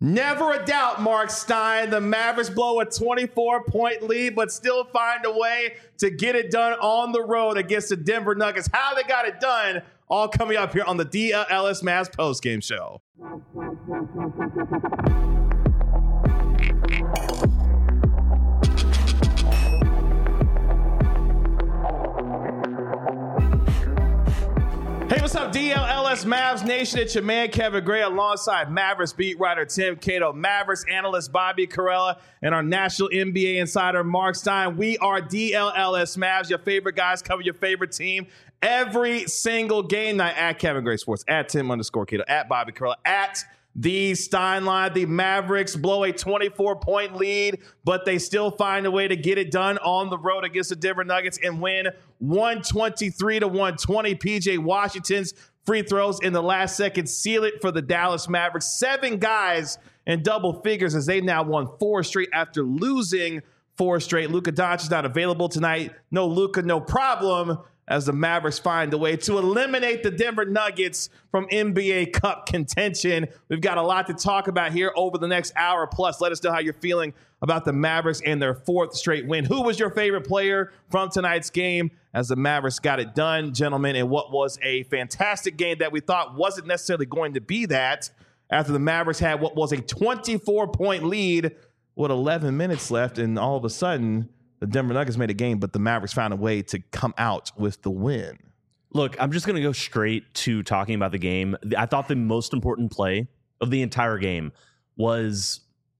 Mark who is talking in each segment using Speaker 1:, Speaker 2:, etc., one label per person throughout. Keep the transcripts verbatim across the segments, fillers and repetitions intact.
Speaker 1: Never a doubt, Mark Stein. The Mavericks blow a twenty-four point lead, but still find a way to get it done on the road against the Denver Nuggets. How they got it done, all coming up here on the D L S Mavs postgame show. Hey, what's up, D L L S Mavs Nation? It's your man, Kevin Gray, alongside Mavericks beat writer Tim Cato, Mavericks analyst Bobby Karalla, and our national N B A insider, Mark Stein. We are D L L S Mavs, your favorite guys cover your favorite team every single game night at Kevin Gray Sports, at Tim underscore Cato, at Bobby Karalla, at the Stein Line. The Mavericks blow a twenty-four point lead, but they still find a way to get it done on the road against the Denver Nuggets and win one twenty-three to one twenty. P J Washington's free throws in the last second seal it for the Dallas Mavericks. Seven guys in double figures as they now won four straight after losing four straight. Luka Doncic not available tonight. No Luka, no problem, as the Mavericks find a way to eliminate the Denver Nuggets from N B A Cup contention. We've got a lot to talk about here over the next hour plus. Let us know how you're feeling about the Mavericks and their fourth straight win. Who was your favorite player from tonight's game as the Mavericks got it done, gentlemen, in what was a fantastic game that we thought wasn't necessarily going to be that after the Mavericks had what was a twenty-four point lead with eleven minutes left, and all of a sudden the Denver Nuggets made a game, but the Mavericks found a way to come out with the win.
Speaker 2: Look, I'm just going to go straight to talking about the game. I thought the most important play of the entire game was,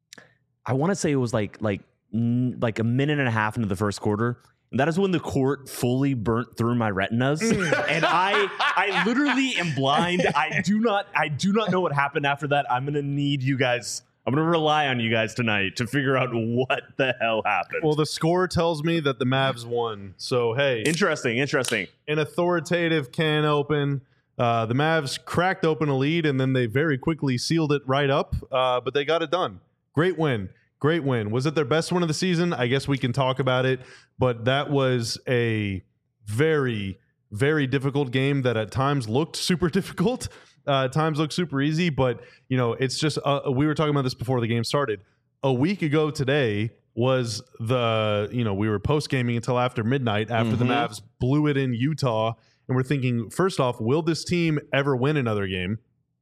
Speaker 2: I want to say it was like like like a minute and a half into the first quarter. And that is when the court fully burnt through my retinas. And I I literally am blind. I do not I do not know what happened after that. I'm going to need you guys. I'm going to rely on you guys tonight to figure out what the hell happened.
Speaker 3: Well, the score tells me that the Mavs won. So, hey.
Speaker 2: Interesting, interesting.
Speaker 3: An authoritative can open. Uh, the Mavs cracked open a lead, and then they very quickly sealed it right up. Uh, but they got it done. Great win. Great win. Was it their best win of the season? I guess we can talk about it. But that was a very, very difficult game that at times looked super difficult. Uh, times look super easy, but you know, it's just uh, we were talking about this before the game started. A week ago today was the you know we were post gaming until after midnight after mm-hmm. the Mavs blew it in Utah, and we're thinking, first off, will this team ever win another game?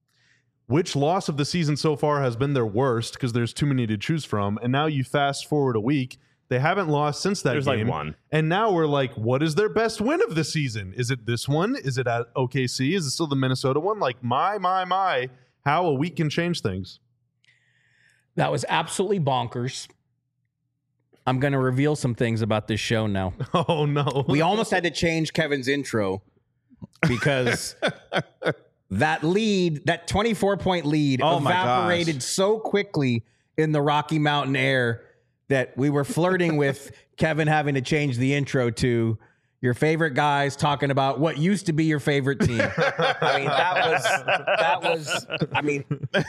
Speaker 3: Which loss of the season so far has been their worst? Because there's too many to choose from. And now you fast forward a week. They haven't lost since that
Speaker 2: There's
Speaker 3: game.
Speaker 2: like one.
Speaker 3: And now we're like, what is their best win of the season? Is it this one? Is it at O K C? Is it still the Minnesota one? Like, my, my, my, how a week can change things.
Speaker 4: That was absolutely bonkers. I'm going to reveal some things about this show now.
Speaker 3: Oh, no.
Speaker 5: We almost had to change Kevin's intro because that lead, that twenty-four point lead
Speaker 1: Oh my
Speaker 5: evaporated
Speaker 1: gosh.
Speaker 5: so quickly in the Rocky Mountain air that we were flirting with Kevin having to change the intro to your favorite guys talking about what used to be your favorite team. I mean, that was, that was, I mean,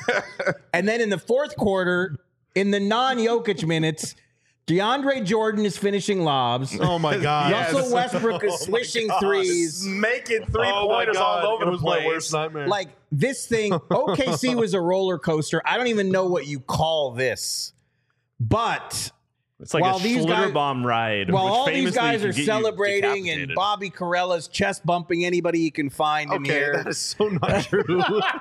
Speaker 5: and then in the fourth quarter, in the non-Jokic minutes, DeAndre Jordan is finishing lobs.
Speaker 3: Oh, my God.
Speaker 5: Russell
Speaker 1: Yes.
Speaker 5: Westbrook is
Speaker 3: Oh,
Speaker 5: swishing
Speaker 3: my God.
Speaker 5: threes.
Speaker 1: Making
Speaker 3: Oh, my
Speaker 1: three-pointers
Speaker 3: God.
Speaker 1: all over
Speaker 3: It
Speaker 1: the
Speaker 3: was
Speaker 1: place.
Speaker 3: my worst nightmare.
Speaker 5: Like, this thing, O K C was a roller coaster. I don't even know what you call this. But
Speaker 2: It's like
Speaker 5: while
Speaker 2: a
Speaker 5: these
Speaker 2: Schlitter
Speaker 5: guys,
Speaker 2: bomb ride.
Speaker 5: while
Speaker 2: which
Speaker 5: all these
Speaker 2: famously
Speaker 5: guys
Speaker 2: can
Speaker 5: are
Speaker 2: get you
Speaker 5: celebrating and
Speaker 2: decapitated.
Speaker 5: Bobby Carella's chest bumping anybody he can find in
Speaker 3: okay,
Speaker 5: here.
Speaker 3: that is so not true.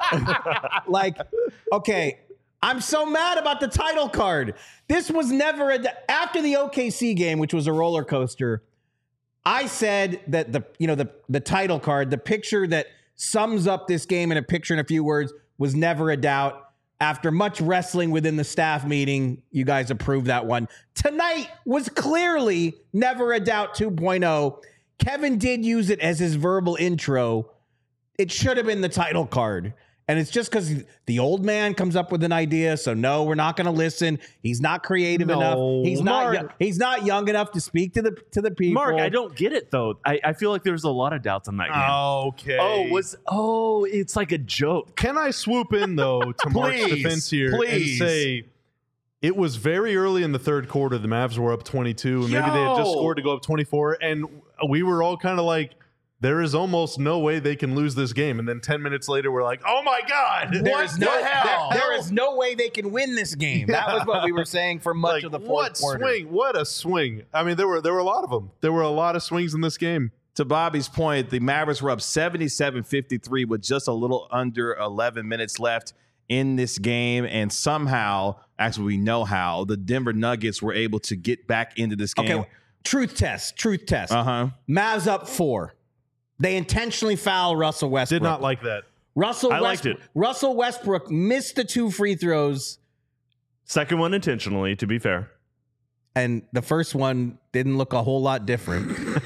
Speaker 5: Like, okay, I'm so mad about the title card. This was never a, after the O K C game, which was a roller coaster. I said that the you know the the title card, the picture that sums up this game in a picture in a few words, was never a doubt. After much wrestling within the staff meeting, you guys approved that one. Tonight was clearly never a doubt two point oh. Kevin did use it as his verbal intro. It should have been the title card. And it's just because the old man comes up with an idea. So no, we're not going to listen. He's not creative
Speaker 3: No,
Speaker 5: enough. He's not.
Speaker 3: Mark.
Speaker 5: Young, he's not young enough to speak to the to the people.
Speaker 2: Mark, I don't get it though. I, I feel like there's a lot of doubts on that game.
Speaker 3: Okay.
Speaker 2: Oh, was oh, it's like a joke.
Speaker 3: Can I swoop in, though, to Mark's
Speaker 1: Please,
Speaker 3: defense here
Speaker 1: please.
Speaker 3: and say it was very early in the third quarter. The Mavs were up twenty-two, and maybe they had just
Speaker 1: Yo.
Speaker 3: scored to go up twenty-four, and we were all kind of like, there is almost no way they can lose this game. And then ten minutes later, we're like, oh my God,
Speaker 5: There
Speaker 3: what
Speaker 5: is no
Speaker 3: the hell?
Speaker 5: There, there is no way they can win this game. That was what we were saying for much
Speaker 3: Like,
Speaker 5: of the fourth
Speaker 3: what
Speaker 5: quarter.
Speaker 3: swing? What a swing. I mean, there were there were a lot of them. There were a lot of swings in this game.
Speaker 1: To Bobby's point, the Mavericks were up seventy-seven fifty-three with just a little under eleven minutes left in this game. And somehow, actually, we know how, the Denver Nuggets were able to get back into this game.
Speaker 5: Okay, truth test. Truth test.
Speaker 1: Uh-huh.
Speaker 5: Mavs up four. They intentionally foul Russell Westbrook.
Speaker 3: Did not like that.
Speaker 5: Russell
Speaker 2: I liked
Speaker 5: Westbrook,
Speaker 2: it.
Speaker 5: Russell Westbrook missed the two free throws,
Speaker 2: Second one intentionally, to be fair.
Speaker 5: and the first one didn't look a whole lot different.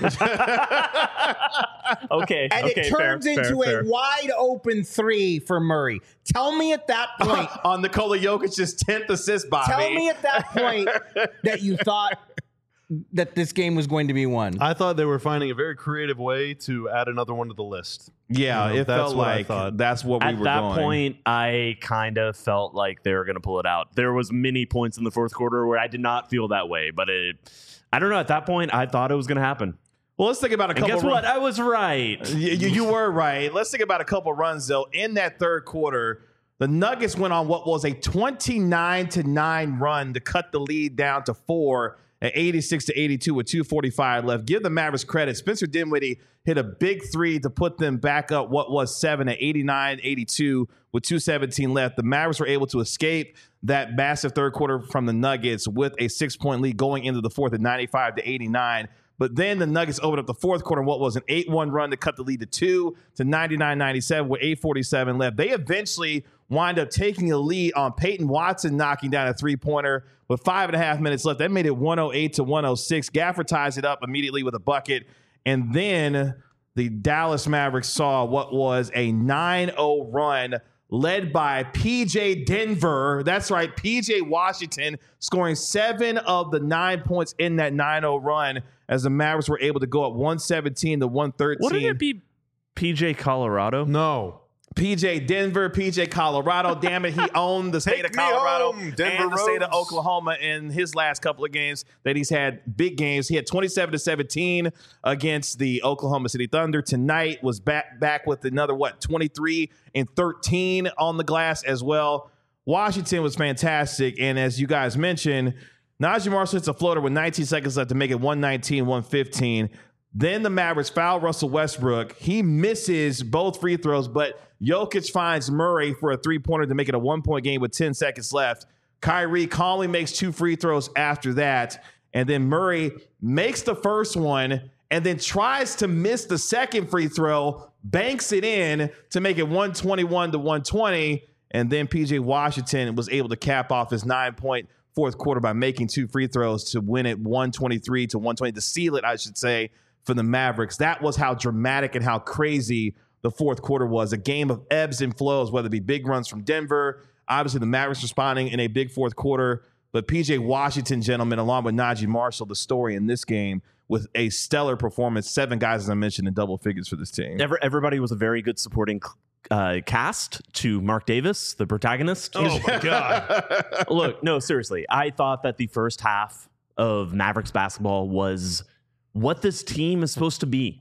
Speaker 2: Okay.
Speaker 5: And
Speaker 2: okay,
Speaker 5: it turns
Speaker 2: fair,
Speaker 5: into
Speaker 2: fair,
Speaker 5: a
Speaker 2: fair.
Speaker 5: wide open three for Murray. Tell me at that point.
Speaker 1: On Nikola Jokic's tenth assist, Bobby.
Speaker 5: Tell me at that point that you thought that this game was going to be won.
Speaker 3: I thought they were finding a very creative way to add another one to the list.
Speaker 1: Yeah,
Speaker 3: You know,
Speaker 1: it
Speaker 3: that's
Speaker 1: felt
Speaker 3: what I
Speaker 1: like
Speaker 3: thought.
Speaker 1: that's what we
Speaker 2: At
Speaker 1: were
Speaker 2: that
Speaker 1: going.
Speaker 2: point, I kind of felt like they were going to pull it out. There was many points in the fourth quarter where I did not feel that way, but it, I don't know. At that point, I thought it was going to happen.
Speaker 1: Well, let's think about a
Speaker 2: And
Speaker 1: couple.
Speaker 2: guess
Speaker 1: run-
Speaker 2: what? I was right.
Speaker 1: You, you, you were right. Let's think about a couple runs though. In that third quarter, the Nuggets went on what was a twenty-nine to nine run to cut the lead down to four at eighty-six to eighty-two with two forty-five left. Give the Mavericks credit. Spencer Dinwiddie hit a big three to put them back up what was seven at eighty-nine eighty-two with two seventeen left. The Mavericks were able to escape that massive third quarter from the Nuggets with a six-point lead going into the fourth at ninety-five to eighty-nine. But then the Nuggets opened up the fourth quarter in what was an eight one run to cut the lead to two to ninety-nine ninety-seven with eight forty-seven left. They eventually wind up taking a lead on Peyton Watson knocking down a three-pointer with five and a half minutes left. That made it one oh eight to one oh six. Gafford ties it up immediately with a bucket. And then the Dallas Mavericks saw what was a nine oh run led by P J Denver. That's right, P J Washington scoring seven of the nine points in that nine oh run as the Mavericks were able to go up one seventeen to one thirteen.
Speaker 2: Wouldn't it be P J Colorado?
Speaker 3: No.
Speaker 1: P J Denver, P J Colorado. Damn it, he owned the state
Speaker 3: Take
Speaker 1: of
Speaker 3: me
Speaker 1: Colorado
Speaker 3: home, Denver
Speaker 1: and the state of
Speaker 3: Rose.
Speaker 1: Oklahoma in his last couple of games that he's had big games. He had twenty-seven to seventeen against the Oklahoma City Thunder. Tonight was back back with another what twenty-three and thirteen on the glass as well. Washington was fantastic, and as you guys mentioned, Najee Marshall hits a floater with nineteen seconds left to make it one nineteen one fifteen. Then the Mavericks foul Russell Westbrook. He misses both free throws, but Jokic finds Murray for a three-pointer to make it a one-point game with ten seconds left. Kyrie calmly makes two free throws after that, and then Murray makes the first one and then tries to miss the second free throw, banks it in to make it one twenty-one to one twenty, and then P J Washington was able to cap off his nine-point fourth quarter by making two free throws to win it one twenty-three to one twenty, to seal it, I should say, for the Mavericks. That was how dramatic and how crazy the fourth quarter was. A game of ebbs and flows, whether it be big runs from Denver, obviously the Mavericks responding in a big fourth quarter, but P J Washington, gentlemen, along with Najee Marshall, the story in this game with a stellar performance. Seven guys, as I mentioned, in double figures for this team.
Speaker 2: Every, everybody was a very good supporting uh, cast to Mark Davis, the protagonist.
Speaker 3: Oh my God.
Speaker 2: Look, no, seriously. I thought that the first half of Mavericks basketball was what this team is supposed to be.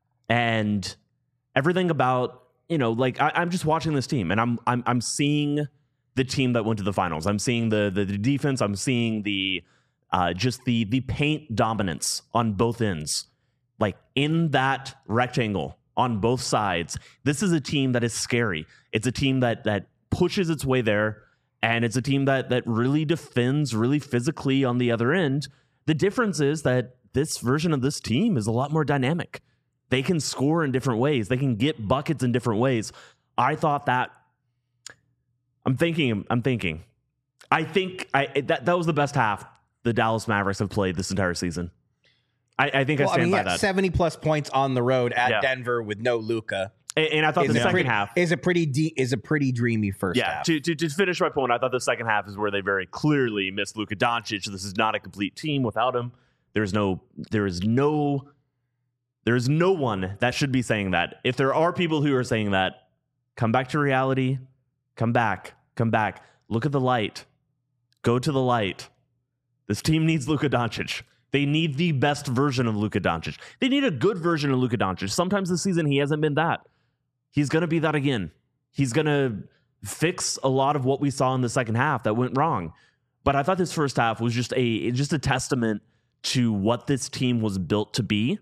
Speaker 2: And everything about, you know, like I, I'm just watching this team and I'm I'm I'm seeing the team that went to the finals. I'm seeing the the, the defense. I'm seeing the uh, just the the paint dominance on both ends. Like in that rectangle on both sides. This is a team that is scary. It's a team that that pushes its way there, and it's a team that that really defends really physically on the other end. The difference is that this version of this team is a lot more dynamic. They can score in different ways. They can get buckets in different ways. I thought that I'm thinking I'm thinking. I think I that that was the best half the Dallas Mavericks have played this entire season. I, I think
Speaker 5: Well,
Speaker 2: I
Speaker 5: I
Speaker 2: stand
Speaker 5: mean,
Speaker 2: by
Speaker 5: yeah,
Speaker 2: that.
Speaker 5: seventy plus points on the road at
Speaker 2: Yeah.
Speaker 5: Denver with no Luka
Speaker 2: And, and I thought
Speaker 5: is
Speaker 2: the
Speaker 5: a
Speaker 2: second
Speaker 5: pretty,
Speaker 2: half
Speaker 5: is a pretty de- is a pretty dreamy first
Speaker 2: Yeah,
Speaker 5: half.
Speaker 2: to, to to finish my point, I thought the second half is where they very clearly missed Luka Doncic. This is not a complete team without him. There's no, there is no, there is no one that should be saying that. If there are people who are saying that, come back to reality. Come back. Come back. Look at the light. Go to the light. This team needs Luka Doncic. They need the best version of Luka Doncic. They need a good version of Luka Doncic. Sometimes this season he hasn't been that. He's going to be that again. He's going to fix a lot of what we saw in the second half that went wrong. But I thought this first half was just a just a testament to what this team was built to be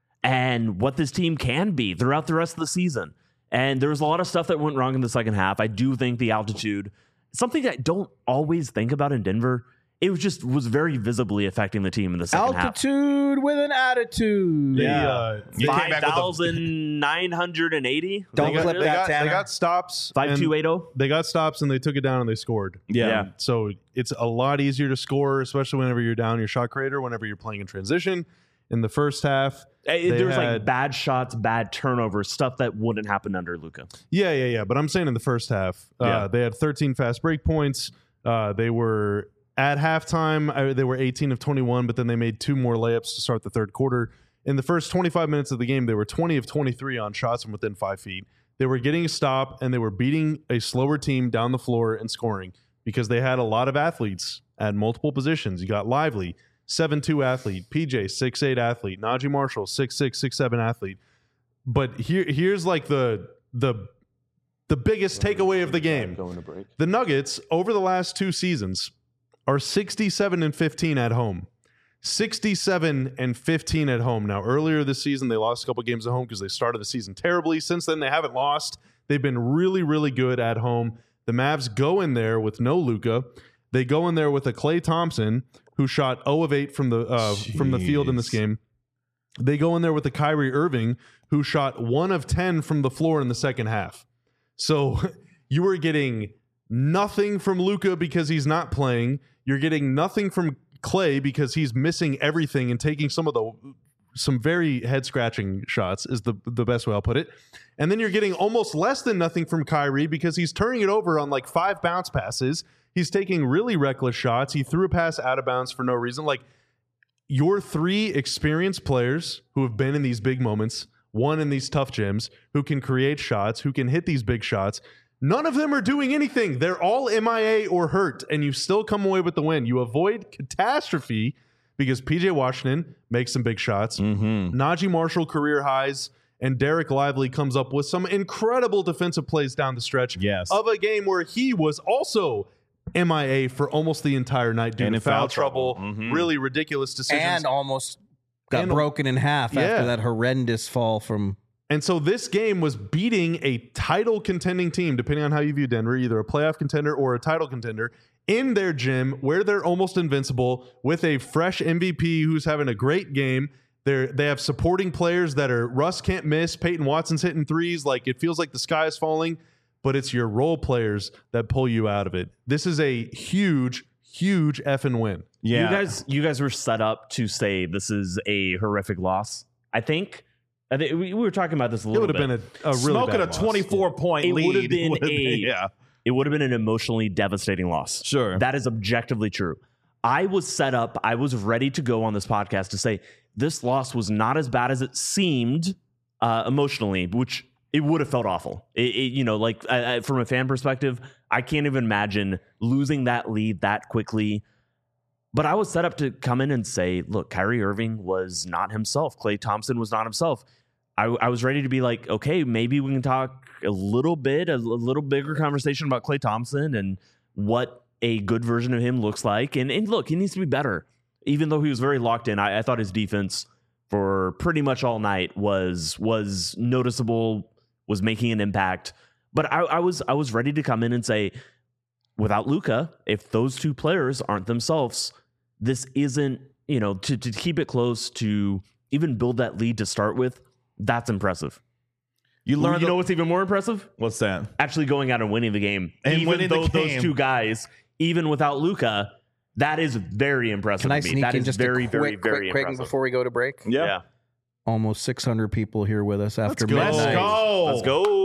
Speaker 2: and what this team can be throughout the rest of the season. And there was a lot of stuff that went wrong in the second half. I do think the altitude, something I don't always think about in Denver, it was just was very visibly affecting the team in the second half.
Speaker 5: Altitude with an attitude.
Speaker 3: They,
Speaker 1: Yeah.
Speaker 3: uh,
Speaker 1: You came
Speaker 2: Five
Speaker 1: back with a-
Speaker 2: thousand nine hundred and eighty.
Speaker 5: Don't
Speaker 3: they got,
Speaker 5: clip
Speaker 3: they
Speaker 5: that,
Speaker 3: got,
Speaker 5: Tanner.
Speaker 3: they got stops.
Speaker 2: Five
Speaker 3: and
Speaker 2: two eight zero.
Speaker 3: They got stops and they took it down and they scored.
Speaker 1: Yeah.
Speaker 2: Yeah.
Speaker 3: So it's a lot easier to score, especially whenever you're down your shot creator, whenever you're playing in transition. In the first half, they
Speaker 2: There was like
Speaker 3: had-
Speaker 2: bad shots, bad turnovers, stuff that wouldn't happen under Luka.
Speaker 3: Yeah, yeah, yeah. But I'm saying in the first half, uh,
Speaker 2: Yeah.
Speaker 3: they had thirteen fast break points. Uh, they were at halftime, uh, they were eighteen of twenty-one, but then they made two more layups to start the third quarter. In the first twenty-five minutes of the game, they were twenty of twenty-three on shots from within five feet. They were getting a stop and they were beating a slower team down the floor and scoring because they had a lot of athletes at multiple positions. You got Lively, seven two athlete, P J, six eight athlete, Najee Marshall, six six, six seven athlete. But here, here's like the the the biggest takeaway of the game. The Nuggets over the last two seasons are sixty-seven and fifteen at home. sixty-seven and fifteen at home. Now, earlier this season, they lost a couple games at home because they started the season terribly. Since then, they haven't lost. They've been really, really good at home. The Mavs go in there with no Luka. They go in there with a Klay Thompson who shot zero of eight from the uh, from the field in this game. They go in there with a Kyrie Irving who shot one of ten from the floor in the second half. So you were getting nothing from Luka because he's not playing. You're getting nothing from Klay because he's missing everything and taking some of the some very head scratching shots is the the best way I'll put it. And then you're getting almost less than nothing from Kyrie because he's turning it over on like five bounce passes. He's taking really reckless shots. He threw a pass out of bounds for no reason. Like, your three experienced players who have been in these big moments, one in these tough gyms, who can create shots, who can hit these big shots, none of them are doing anything. They're all M I A or hurt, and you still come away with the win. You avoid catastrophe because P J Washington makes some big shots.
Speaker 1: Mm-hmm.
Speaker 3: Najee Marshall career highs, and Derek Lively comes up with some incredible defensive plays down the stretch
Speaker 1: Yes.
Speaker 3: of a game where he was also M I A for almost the entire night due
Speaker 1: And
Speaker 3: to
Speaker 1: in
Speaker 3: foul,
Speaker 1: foul
Speaker 3: trouble.
Speaker 1: trouble. Mhm.
Speaker 3: Really ridiculous decisions.
Speaker 5: And almost got
Speaker 3: And-
Speaker 5: broken in half
Speaker 3: Yeah.
Speaker 5: after that horrendous fall from.
Speaker 3: And so this game was beating a title contending team, depending on how you view Denver, either a playoff contender or a title contender, in their gym where they're almost invincible with a fresh M V P who's having a great game. They're, they have supporting players that are Russ can't miss. Peyton Watson's hitting threes. Like, it feels like the sky is falling, but it's your role players that pull you out of it. This is a huge, huge effing win.
Speaker 1: Yeah.
Speaker 2: You guys, you guys were set up to say this is a horrific loss. I think. I think we, we were talking about this a
Speaker 3: It
Speaker 2: little
Speaker 3: would have
Speaker 2: bit.
Speaker 3: been a, a really
Speaker 1: Smoking
Speaker 3: bad
Speaker 1: a
Speaker 3: loss.
Speaker 1: twenty-four point
Speaker 2: It
Speaker 1: lead.
Speaker 2: would've been
Speaker 1: would've
Speaker 2: a-
Speaker 1: yeah.
Speaker 2: It would have been an emotionally devastating loss.
Speaker 1: Sure.
Speaker 2: That is objectively true. I was set up. I was ready to go on this podcast to say this loss was not as bad as it seemed uh, emotionally, which it would have felt awful. It, it, you know, like I, I, from a fan perspective, I can't even imagine losing that lead that quickly. But I was set up to come in and say, look, Kyrie Irving was not himself. Klay Thompson was not himself. I, I was ready to be like, okay, maybe we can talk a little bit, a, a little bigger conversation about Klay Thompson and what a good version of him looks like. And, and look, he needs to be better. Even though he was very locked in, I, I thought his defense for pretty much all night was was noticeable, was making an impact. But I, I was I was ready to come in and say, without Luka, if those two players aren't themselves, this isn't, you know, to, to keep it close, to even build that lead to start with, that's impressive.
Speaker 1: You learned.
Speaker 2: You
Speaker 1: the-
Speaker 2: know what's even more impressive?
Speaker 1: what's that?
Speaker 2: Actually going out and winning the game.
Speaker 1: And
Speaker 2: even
Speaker 1: winning the
Speaker 2: though
Speaker 1: game.
Speaker 2: those two guys, even without Luka, that is very impressive.
Speaker 5: Can I
Speaker 2: to me.
Speaker 5: sneak
Speaker 2: that
Speaker 5: in
Speaker 2: is
Speaker 5: just
Speaker 2: very,
Speaker 5: a quick,
Speaker 2: very,
Speaker 5: quick,
Speaker 2: very
Speaker 5: quick
Speaker 2: impressive.
Speaker 5: before we go to break?
Speaker 1: Yeah.
Speaker 5: Almost six hundred people here with us after
Speaker 3: go.
Speaker 5: midnight.
Speaker 1: Let's go.
Speaker 2: Let's go.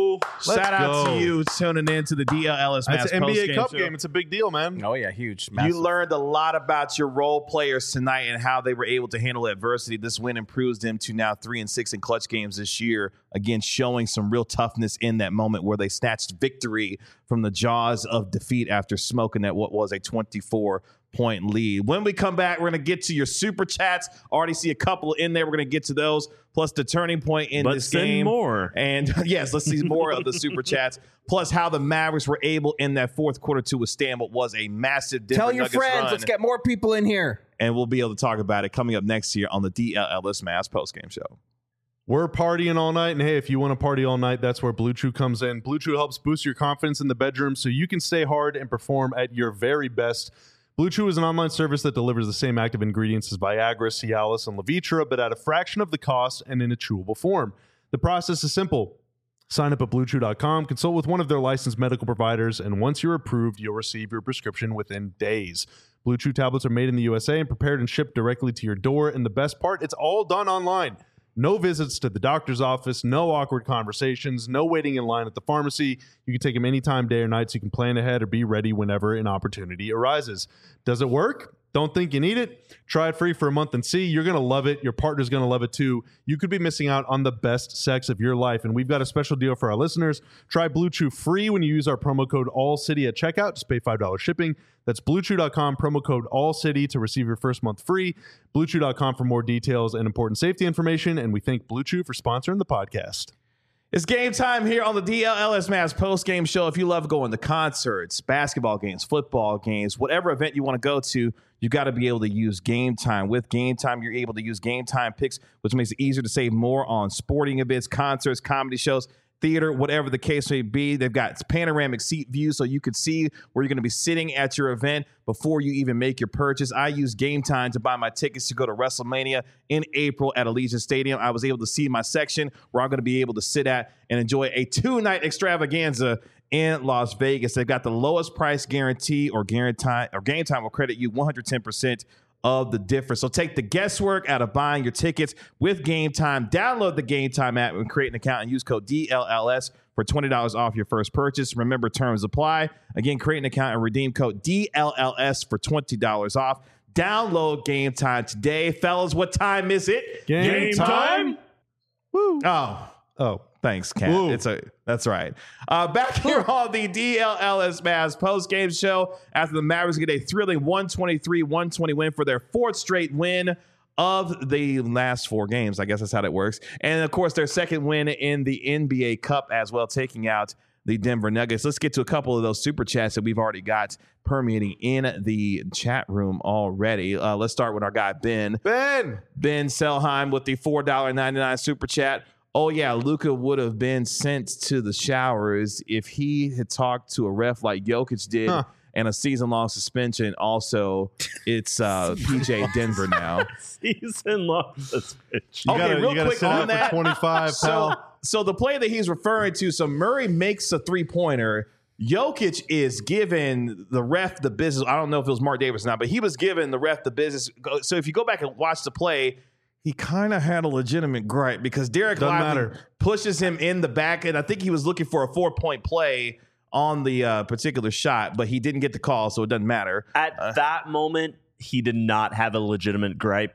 Speaker 1: Shout out
Speaker 3: go.
Speaker 1: to you tuning in to the D L L S Mavs
Speaker 3: That's an N B A
Speaker 1: postgame
Speaker 3: Cup
Speaker 1: show.
Speaker 3: game. It's a big deal, man.
Speaker 5: Oh yeah, huge.
Speaker 1: You
Speaker 5: Massive.
Speaker 1: learned a lot about your role players tonight and how they were able to handle adversity. This win improves them to now three and six in clutch games this year. Again, showing some real toughness in that moment where they snatched victory from the jaws of defeat after smoking at what was a twenty-four point lead. When we come back, we're going to get to your super chats. Already see a couple in there. We're going to get to those, plus the turning point in
Speaker 2: But
Speaker 1: this
Speaker 2: send
Speaker 1: game.
Speaker 2: more.
Speaker 1: And yes, let's see more of the super chats, plus how the Mavericks were able in that fourth quarter to withstand what was a massive Denver
Speaker 5: Tell your
Speaker 1: Nuggets
Speaker 5: friends.
Speaker 1: run.
Speaker 5: Let's get more people in here.
Speaker 1: And we'll be able to talk about it coming up next year on the D L L S Mavs postgame show.
Speaker 3: We're partying all night, and hey, if you want to party all night, that's where Blue Chew comes in. Blue Chew helps boost your confidence in the bedroom so you can stay hard and perform at your very best. Blue Chew is an online service that delivers the same active ingredients as Viagra, Cialis, and Levitra, but at a fraction of the cost and in a chewable form. The process is simple. Sign up at blue chew dot com, consult with one of their licensed medical providers, and once you're approved, you'll receive your prescription within days. Blue Chew tablets are made in the U S A and prepared and shipped directly to your door, and the best part, it's all done online. No visits to the doctor's office, no awkward conversations, no waiting in line at the pharmacy. You can take them anytime, day or night, so you can plan ahead or be ready whenever an opportunity arises. Does it work? Don't think you need it? Try it free for a month and see. You're going to love it. Your partner's going to love it too. You could be missing out on the best sex of your life, and we've got a special deal for our listeners. Try Blue Chew free when you use our promo code ALLCITY at checkout. Just pay five dollars shipping. That's blue chew dot com, promo code ALLCITY to receive your first month free. blue chew dot com for more details and important safety information, and we thank Blue Chew for sponsoring the podcast.
Speaker 1: It's game time here on the D L L S Mavs post-game show. If you love going to concerts, basketball games, football games, whatever event you want to go to, you got to be able to use Game Time. With Game Time, you're able to use Game Time picks, which makes it easier to save more on sporting events, concerts, comedy shows, theater, whatever the case may be. They've got panoramic seat views so you can see where you're going to be sitting at your event before you even make your purchase. I use Game Time to buy my tickets to go to WrestleMania in April at Allegiant Stadium. I was able to see my section where I'm going to be able to sit at and enjoy a two-night extravaganza in Las Vegas. They've got the lowest price guarantee, or guarantee, or Game Time will credit you one hundred ten percent of the difference. So take the guesswork out of buying your tickets with Game Time. Download the Game Time app and create an account and use code D L L S for twenty dollars off your first purchase. Remember, terms apply. Again, create an account and redeem code D L L S for twenty dollars off. Download Game Time today. Fellas, what time is it?
Speaker 3: Game time?
Speaker 1: Woo. Oh,
Speaker 3: Oh,
Speaker 1: thanks, Kat.
Speaker 3: Woo.
Speaker 1: It's a that's right. Uh, back here on the D L L S Mavs post-game show after the Mavericks get a thrilling one twenty-three one twenty win for their fourth straight win of the last four games. I guess that's how that works. And, of course, their second win in the N B A Cup as well, taking out the Denver Nuggets. Let's get to a couple of those super chats that we've already got permeating in the chat room already. Uh, let's start with our guy, Ben.
Speaker 3: Ben!
Speaker 1: Ben Selheim with the four ninety-nine super chat. Oh, yeah, Luka would have been sent to the showers if he had talked to a ref like Jokic did,
Speaker 3: Huh.
Speaker 1: and a season-long suspension. Also, it's uh, P J Denver now.
Speaker 2: Season long suspension.
Speaker 3: You
Speaker 1: Okay,
Speaker 3: gotta,
Speaker 1: real
Speaker 3: you gotta
Speaker 1: quick
Speaker 3: sit
Speaker 1: on
Speaker 3: out
Speaker 1: that.
Speaker 3: for twenty-five,
Speaker 1: So,
Speaker 3: pal.
Speaker 1: so the play that he's referring to, so Murray makes a three-pointer. Jokic is giving the ref the business. I don't know if it was Mark Davis or not, but he was giving the ref the business. So if you go back and watch the play, he kind of had a legitimate gripe because Derek
Speaker 3: Doesn't
Speaker 1: Lively
Speaker 3: matter.
Speaker 1: pushes him in the back, and I think he was looking for a four-point play on the uh, particular shot, but he didn't get the call, so it doesn't matter.
Speaker 2: At
Speaker 1: Uh,
Speaker 2: that moment, he did not have a legitimate gripe.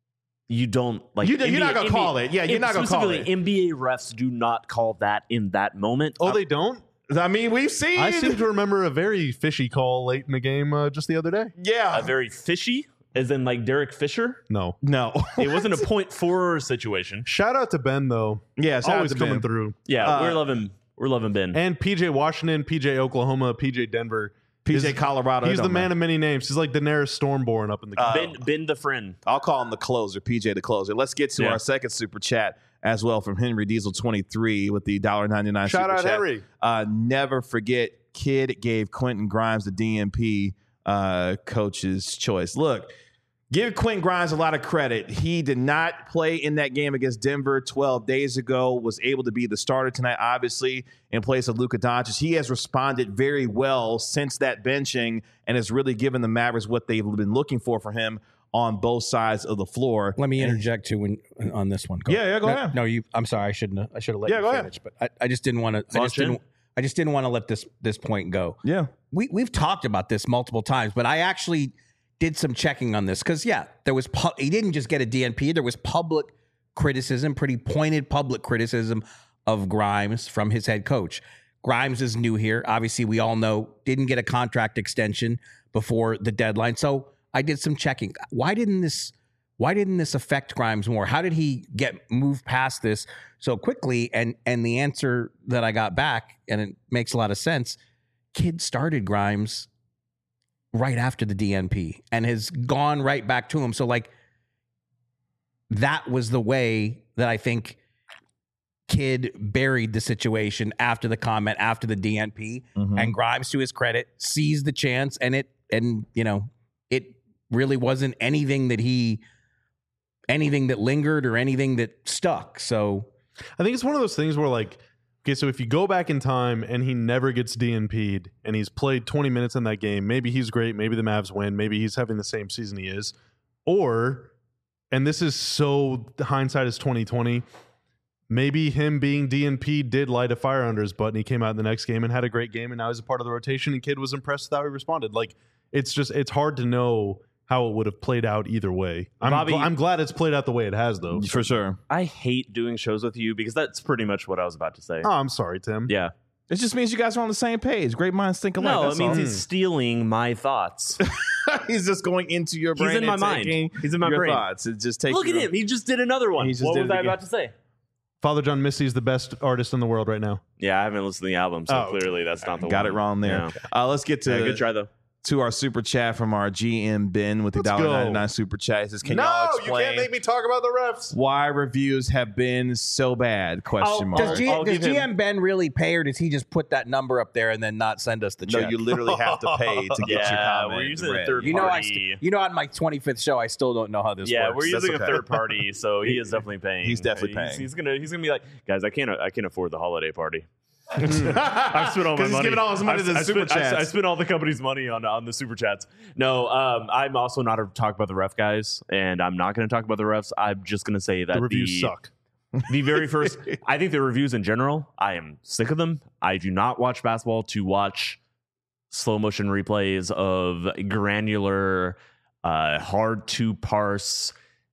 Speaker 2: You don't like.
Speaker 1: You- you're not gonna call it. Yeah, you're not gonna call
Speaker 2: specifically,
Speaker 1: it.
Speaker 2: N B A refs do not call that in that moment.
Speaker 3: Oh, they don't?
Speaker 1: I mean, we've seen.
Speaker 3: I seem to remember a very fishy call late in the game uh, just the other day.
Speaker 1: yeah.
Speaker 2: A very fishy, as in like Derek Fisher.
Speaker 3: No.
Speaker 1: no.
Speaker 2: It wasn't a point four situation.
Speaker 3: Shout out to Ben, though.
Speaker 1: yeah, shout out
Speaker 3: Always
Speaker 1: to
Speaker 3: coming
Speaker 1: Ben.
Speaker 3: through.
Speaker 2: Yeah,
Speaker 1: Uh,
Speaker 2: we're loving, we're loving Ben.
Speaker 3: And P J Washington, P J Oklahoma, P J Denver.
Speaker 1: P J
Speaker 3: Is-
Speaker 1: Colorado. it
Speaker 3: He's the
Speaker 1: don't
Speaker 3: man
Speaker 1: matter.
Speaker 3: of many names. He's like Daenerys Stormborn up in the
Speaker 1: Uh,
Speaker 2: ben, Ben the friend.
Speaker 1: I'll call him the closer, P J the closer. Let's get to
Speaker 2: Yeah.
Speaker 1: our second super chat as well from Henry Diesel twenty-three with the one ninety-nine
Speaker 3: Shout
Speaker 1: super
Speaker 3: out
Speaker 1: chat.
Speaker 3: Henry.
Speaker 1: Uh, never forget, kid gave Quentin Grimes the D M P uh, coach's choice. Look, give Quentin Grimes a lot of credit. He did not play in that game against Denver twelve days ago, was able to be the starter tonight, obviously, in place of Luka Doncic. He has responded very well since that benching and has really given the Mavericks what they've been looking for from him on both sides of the floor.
Speaker 4: Let me
Speaker 1: And-
Speaker 4: interject too when, on this one. Go.
Speaker 1: Yeah, yeah, go
Speaker 4: no,
Speaker 1: ahead.
Speaker 4: No, you. I'm sorry. I shouldn't. Have, I should have let
Speaker 1: Yeah,
Speaker 4: you
Speaker 1: go ahead.
Speaker 4: finish. But I, I just didn't want to. I
Speaker 2: Launch
Speaker 4: just didn't.
Speaker 2: in.
Speaker 4: I just didn't want to let this this point go.
Speaker 1: Yeah.
Speaker 4: We we've talked about this multiple times, but I actually did some checking on this because yeah, there was. Pu- he didn't just get a D N P. There was public criticism, pretty pointed public criticism of Grimes from his head coach. Grimes is new here. Obviously, we all know didn't get a contract extension before the deadline. So I did some checking. Why didn't this why didn't this affect Grimes more? How did he get moved past this so quickly? And and the answer that I got back, and it makes a lot of sense, kid started Grimes right after the D N P and has gone right back to him. So like that was the way that I think Kid buried the situation after the comment, after the D N P,
Speaker 1: Mhm.
Speaker 4: and Grimes, to his credit, seized the chance, and it, and you know, it really wasn't anything that he, anything that lingered or anything that stuck. So
Speaker 3: I think it's one of those things where, like, okay, so if you go back in time and he never gets D N P'd and he's played twenty minutes in that game, maybe he's great, maybe the Mavs win, maybe he's having the same season he is. Or, and this is so, hindsight is twenty twenty, maybe him being D N P'd did light a fire under his butt and he came out in the next game and had a great game and now he's a part of the rotation and Kid was impressed with how he responded. Like, it's just, it's hard to know how it would have played out either way. I'm,
Speaker 2: Bobby-
Speaker 3: gl- I'm glad it's played out the way it has, though.
Speaker 1: For sure.
Speaker 2: I hate doing shows with you because that's pretty much what I was about to say.
Speaker 3: Oh, I'm sorry, Tim.
Speaker 2: Yeah.
Speaker 1: It just means you guys are on the same page. Great minds think alike.
Speaker 2: No,
Speaker 1: that's
Speaker 2: it means
Speaker 1: all.
Speaker 2: he's stealing my thoughts.
Speaker 1: He's just going into your
Speaker 2: He's
Speaker 1: brain.
Speaker 2: in my
Speaker 1: and
Speaker 2: mind.
Speaker 1: taking
Speaker 2: He's in my
Speaker 1: your
Speaker 2: brain.
Speaker 1: thoughts. It just takes.
Speaker 2: Look at him. He just did another one.
Speaker 1: He just
Speaker 2: What
Speaker 1: did
Speaker 2: was
Speaker 1: it
Speaker 2: I
Speaker 1: again.
Speaker 2: about to say?
Speaker 3: Father John Misty is the best artist in the world right now.
Speaker 2: Yeah, I haven't listened to the album, so
Speaker 3: Oh,
Speaker 2: clearly that's not the
Speaker 1: Got
Speaker 2: one.
Speaker 1: it wrong there.
Speaker 2: Yeah.
Speaker 1: Uh, let's get to
Speaker 2: Yeah, good try, though.
Speaker 1: to our super chat from our G M Ben with the
Speaker 3: Let's
Speaker 1: dollar
Speaker 3: go.
Speaker 1: ninety nine super chat. He says, "Can y'all explain
Speaker 3: me talk about the refs.
Speaker 1: why reviews have been so bad?" Question
Speaker 2: Oh,
Speaker 1: mark.
Speaker 4: does, G-
Speaker 2: I'll
Speaker 4: does
Speaker 2: give him-
Speaker 4: G M Ben really pay, or does he just put that number up there and then not send us the
Speaker 1: no,
Speaker 4: check?
Speaker 1: you literally have to pay to get your
Speaker 2: Yeah,
Speaker 1: comment
Speaker 2: we're using a
Speaker 1: read.
Speaker 2: third
Speaker 4: You know, I
Speaker 2: party.
Speaker 4: st- you know, on my twenty-fifth show, I still don't know how this
Speaker 2: Yeah,
Speaker 4: works.
Speaker 2: we're
Speaker 1: That's
Speaker 2: using
Speaker 1: okay.
Speaker 2: a third party, so he is definitely paying.
Speaker 1: He's definitely
Speaker 2: He's-
Speaker 1: paying.
Speaker 2: He's, gonna he's gonna be like, guys, I can't I can't afford the holiday party.
Speaker 1: I've
Speaker 2: I've spent all my
Speaker 1: Because he's
Speaker 2: money.
Speaker 1: giving all his money
Speaker 2: I,
Speaker 1: to the
Speaker 2: I
Speaker 1: super
Speaker 2: spent, I, I
Speaker 1: chats.
Speaker 2: spent all the company's money on on the super chats. No, um, I'm also not to talk about the ref guys, and I'm not going to talk about the refs. I'm just going to say that
Speaker 3: The reviews suck.
Speaker 2: The very first, I think the reviews in general, I am sick of them. I do not watch basketball to watch slow motion replays of granular, uh, hard to parse.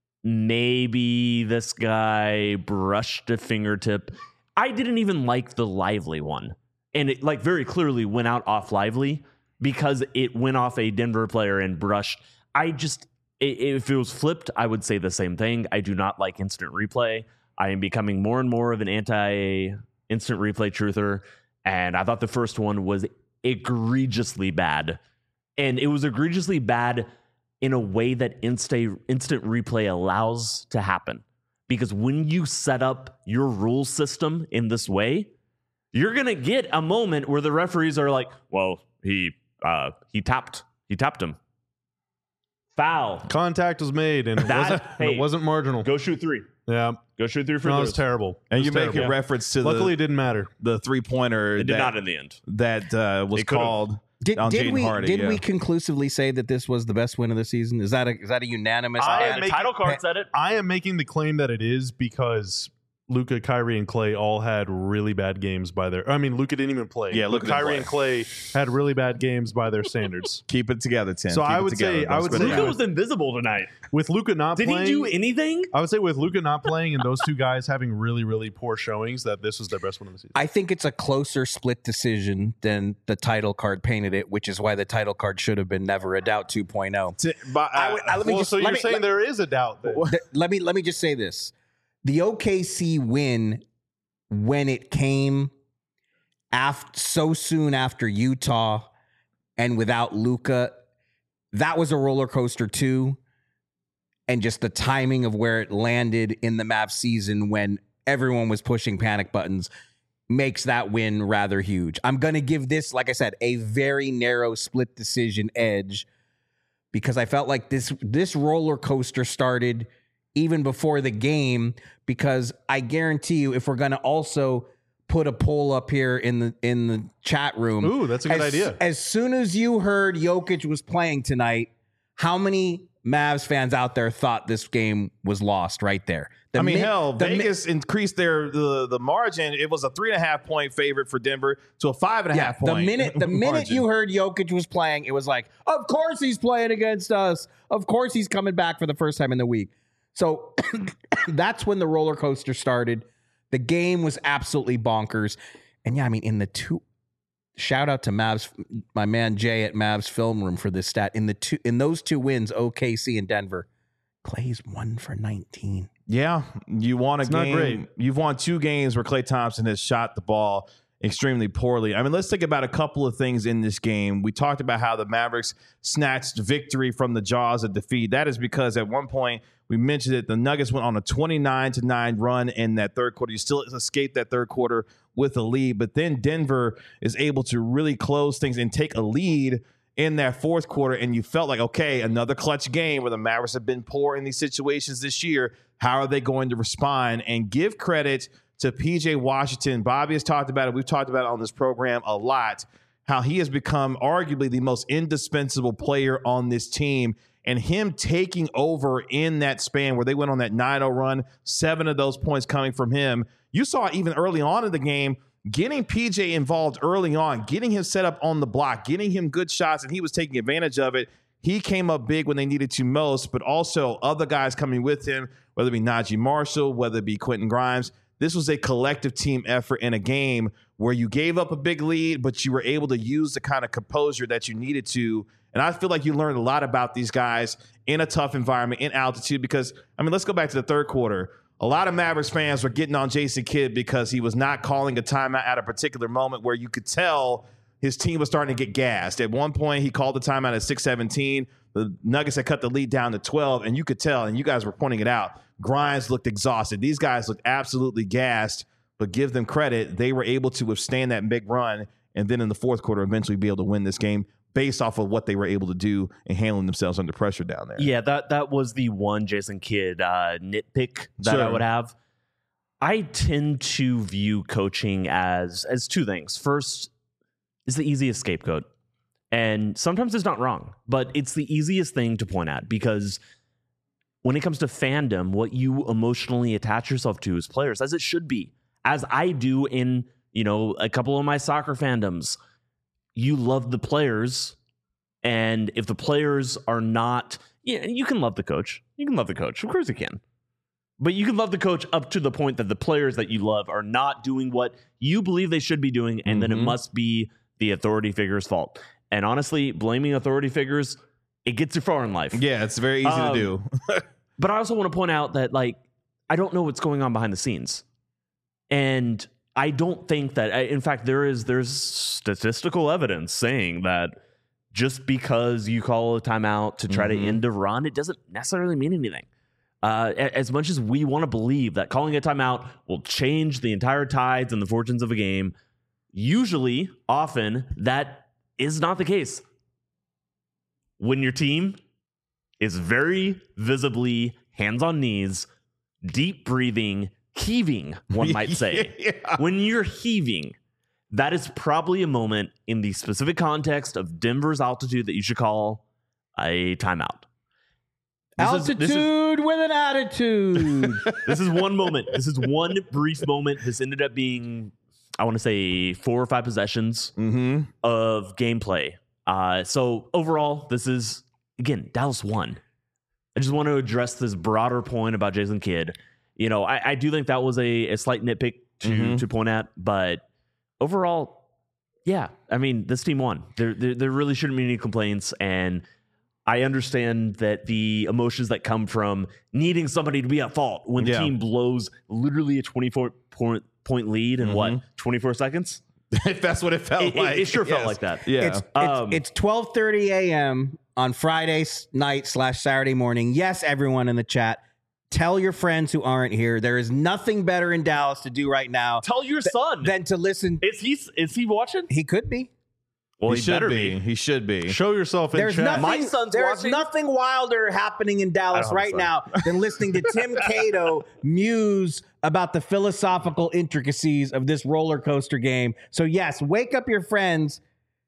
Speaker 2: Maybe this guy brushed a fingertip. I didn't even like the Lively one. And it like very clearly went out off Lively because it went off a Denver player and brushed. I just, i- if it was flipped, I would say the same thing. I do not like instant replay. I am becoming more and more of an anti-instant replay truther. And I thought the first one was egregiously bad. And it was egregiously bad in a way that insta- instant replay allows to happen. Because when you set up your rule system in this way, you're going to get a moment where the referees are like, well, he uh, he tapped. He tapped him. Foul.
Speaker 3: Contact was made and it,
Speaker 2: That-
Speaker 3: wasn't, and
Speaker 2: hey,
Speaker 3: it wasn't marginal.
Speaker 2: Go shoot three.
Speaker 3: Yeah.
Speaker 2: Go shoot three for
Speaker 3: No, it
Speaker 2: those.
Speaker 3: was terrible.
Speaker 1: And
Speaker 3: It
Speaker 1: you
Speaker 3: was
Speaker 1: make a
Speaker 3: terrible.
Speaker 1: reference to
Speaker 3: Luckily, it
Speaker 1: the,
Speaker 3: didn't matter.
Speaker 1: the three pointer
Speaker 2: It did
Speaker 1: that,
Speaker 2: not in the end.
Speaker 1: that uh, was
Speaker 2: It could've.
Speaker 1: called
Speaker 4: Did,
Speaker 1: on
Speaker 4: did
Speaker 1: Jaden
Speaker 4: we
Speaker 1: Hardy.
Speaker 4: did
Speaker 1: yeah.
Speaker 4: we conclusively say that this was the best win of the season? Is that a is that a unanimous?
Speaker 3: I
Speaker 2: Yeah,
Speaker 3: am
Speaker 2: the
Speaker 3: making-
Speaker 2: title card said it.
Speaker 3: I am making the claim that it is because Luka, Kyrie, and Clay all had really bad games by their. I mean, Luka didn't even play.
Speaker 1: Yeah, Luka
Speaker 3: Luka,
Speaker 1: didn't
Speaker 3: Kyrie,
Speaker 1: play.
Speaker 3: and Clay had really bad games by their standards.
Speaker 1: Keep it together, Tim.
Speaker 3: So
Speaker 1: Keep
Speaker 3: I
Speaker 1: it
Speaker 3: would
Speaker 1: together.
Speaker 3: say-
Speaker 1: Don't
Speaker 3: I would
Speaker 1: spit
Speaker 3: say
Speaker 1: it
Speaker 2: Luka
Speaker 1: out.
Speaker 2: was invisible tonight.
Speaker 3: With Luka not
Speaker 2: Did
Speaker 3: playing,
Speaker 2: he do anything?
Speaker 3: I would say with Luka not playing and those two guys having really, really poor showings, that this was their best one of the season.
Speaker 4: I think it's a closer split decision than the title card painted it, which is why the title card should have been Never a Doubt two point oh.
Speaker 1: Ti- but, uh,
Speaker 4: I would- I- let me
Speaker 3: well,
Speaker 4: just-
Speaker 3: so
Speaker 4: let
Speaker 3: you're
Speaker 4: me-
Speaker 3: saying
Speaker 4: let-
Speaker 3: there is a doubt there.
Speaker 4: Th- let me let me just say this: the O K C win, when it came after so soon after Utah and without Luka, that was a roller coaster too. And just the timing of where it landed in the Mavs season when everyone was pushing panic buttons makes that win rather huge. I'm going to give this, like I said, a very narrow split decision edge because I felt like this this roller coaster started even before the game, because I guarantee you, if we're going to also put a poll up here in the in the chat room.
Speaker 3: Ooh, that's a good
Speaker 4: as,
Speaker 3: idea.
Speaker 4: As soon as you heard Jokic was playing tonight, how many Mavs fans out there thought this game was lost right there. The
Speaker 1: I mean,
Speaker 4: mi-
Speaker 1: hell,
Speaker 4: the mi-
Speaker 1: Vegas increased their the, the margin. It was a three and a half point favorite for Denver to a five and a
Speaker 4: yeah,
Speaker 1: half point.
Speaker 4: the minute the minute
Speaker 1: margin.
Speaker 4: you heard Jokic was playing, it was like, of course he's playing against us. Of course he's coming back for the first time in the week. So that's when the roller coaster started. The game was absolutely bonkers. And yeah, I mean, in the two shout out to Mavs, my man Jay at Mavs Film Room for this stat. In the two in those two wins, O K C and Denver, Clay's one for nineteen.
Speaker 1: Yeah, you won a
Speaker 3: It's not
Speaker 1: game.
Speaker 3: great.
Speaker 1: You've won two games where Klay Thompson has shot the ball extremely poorly. I mean, let's think about a couple of things in this game. We talked about how the Mavericks snatched victory from the jaws of defeat. That is because at one point we mentioned that the Nuggets went on a twenty-nine to nine run in that third quarter. You still escaped that third quarter with a lead, but then Denver is able to really close things and take a lead in that fourth quarter, and you felt like, okay, another clutch game where the Mavericks have been poor in these situations this year. How are they going to respond? And give credit to P J Washington. Bobby has talked about it. We've talked about it on this program a lot, how he has become arguably the most indispensable player on this team. And him taking over in that span where they went on that nine oh run, seven of those points coming from him. You saw even early on in the game, getting P J involved early on, getting him set up on the block, getting him good shots, and he was taking advantage of it. He came up big when they needed to most, but also other guys coming with him, whether it be Najee Marshall, whether it be Quentin Grimes. This was a collective team effort in a game where you gave up a big lead, but you were able to use the kind of composure that you needed to. And I feel like you learned a lot about these guys in a tough environment, in altitude, because, I mean, let's go back to the third quarter. A lot of Mavericks fans were getting on Jason Kidd because he was not calling a timeout at a particular moment where you could tell his team was starting to get gassed. At one point, he called the timeout at six seventeen. The Nuggets had cut the lead down to twelve, and you could tell, and you guys were pointing it out, Grimes looked exhausted. These guys looked absolutely gassed, but give them credit. They were able to withstand that big run, and then in the fourth quarter, eventually be able to win this game based off of what they were able to do and handling themselves under pressure down there.
Speaker 2: Yeah, that that was the one Jason Kidd uh, nitpick that
Speaker 1: Sure.
Speaker 2: I would have. I tend to view coaching as as two things. First, is the easiest scapegoat. And sometimes it's not wrong, but it's the easiest thing to point at because when it comes to fandom, what you emotionally attach yourself to as players, as it should be, as I do in, you know, a couple of my soccer fandoms, you love the players. And if the players are not, yeah, you can love the coach. You can love the coach. Of course you can. But you can love the coach up to the point that the players that you love are not doing what you believe they should be doing. And mm-hmm. then it must be the authority figure's fault. And honestly, blaming authority figures, it gets you far in life.
Speaker 1: Yeah, it's very easy
Speaker 2: um,
Speaker 1: to do.
Speaker 2: But I also want to point out that, like, I don't know what's going on behind the scenes. And I don't think that, in fact, there is there's statistical evidence saying that just because you call a timeout to try mm-hmm. to end a run, it doesn't necessarily mean anything. Uh, as much as we want to believe that calling a timeout will change the entire tides and the fortunes of a game, usually, often, that is not the case. When your team is very visibly hands on knees, deep breathing, heaving, one might say. yeah. When you're heaving, that is probably a moment in the specific context of Denver's altitude that you should call a timeout.
Speaker 5: This altitude is, is, with an attitude.
Speaker 2: This is one moment. This is one brief moment. This ended up being, I want to say, four or five possessions
Speaker 1: mm-hmm.
Speaker 2: of gameplay. Uh, so overall, this is, again, Dallas won. I just want to address this broader point about Jason Kidd. You know, I, I do think that was a, a slight nitpick to mm-hmm. to point at, but overall, yeah, I mean, this team won. There, there, there really shouldn't be any complaints, and I understand that the emotions that come from needing somebody to be at fault when
Speaker 1: yeah.
Speaker 2: the team blows literally a twenty-four point, point lead in mm-hmm. what, twenty-four seconds?
Speaker 1: If that's what it felt
Speaker 2: it,
Speaker 1: like.
Speaker 2: It, it sure
Speaker 1: yes.
Speaker 2: felt like that.
Speaker 1: Yeah.
Speaker 5: It's,
Speaker 2: um,
Speaker 5: it's, it's twelve thirty a.m. on Friday night slash Saturday morning. Yes, everyone in the chat, tell your friends who aren't here. There is nothing better in Dallas to do right now.
Speaker 2: Tell your th- son.
Speaker 5: Than to listen.
Speaker 2: Is he, is he watching?
Speaker 5: He could be.
Speaker 2: Well,
Speaker 1: he,
Speaker 2: he
Speaker 1: should
Speaker 2: better
Speaker 1: be.
Speaker 2: be.
Speaker 1: He should be.
Speaker 3: Show yourself in
Speaker 5: There's
Speaker 3: chat.
Speaker 5: nothing,
Speaker 2: My son's
Speaker 5: there's
Speaker 2: watching.
Speaker 5: nothing wilder happening in Dallas right now than listening to Tim Cato muse about the philosophical intricacies of this roller coaster game. So yes, wake up your friends.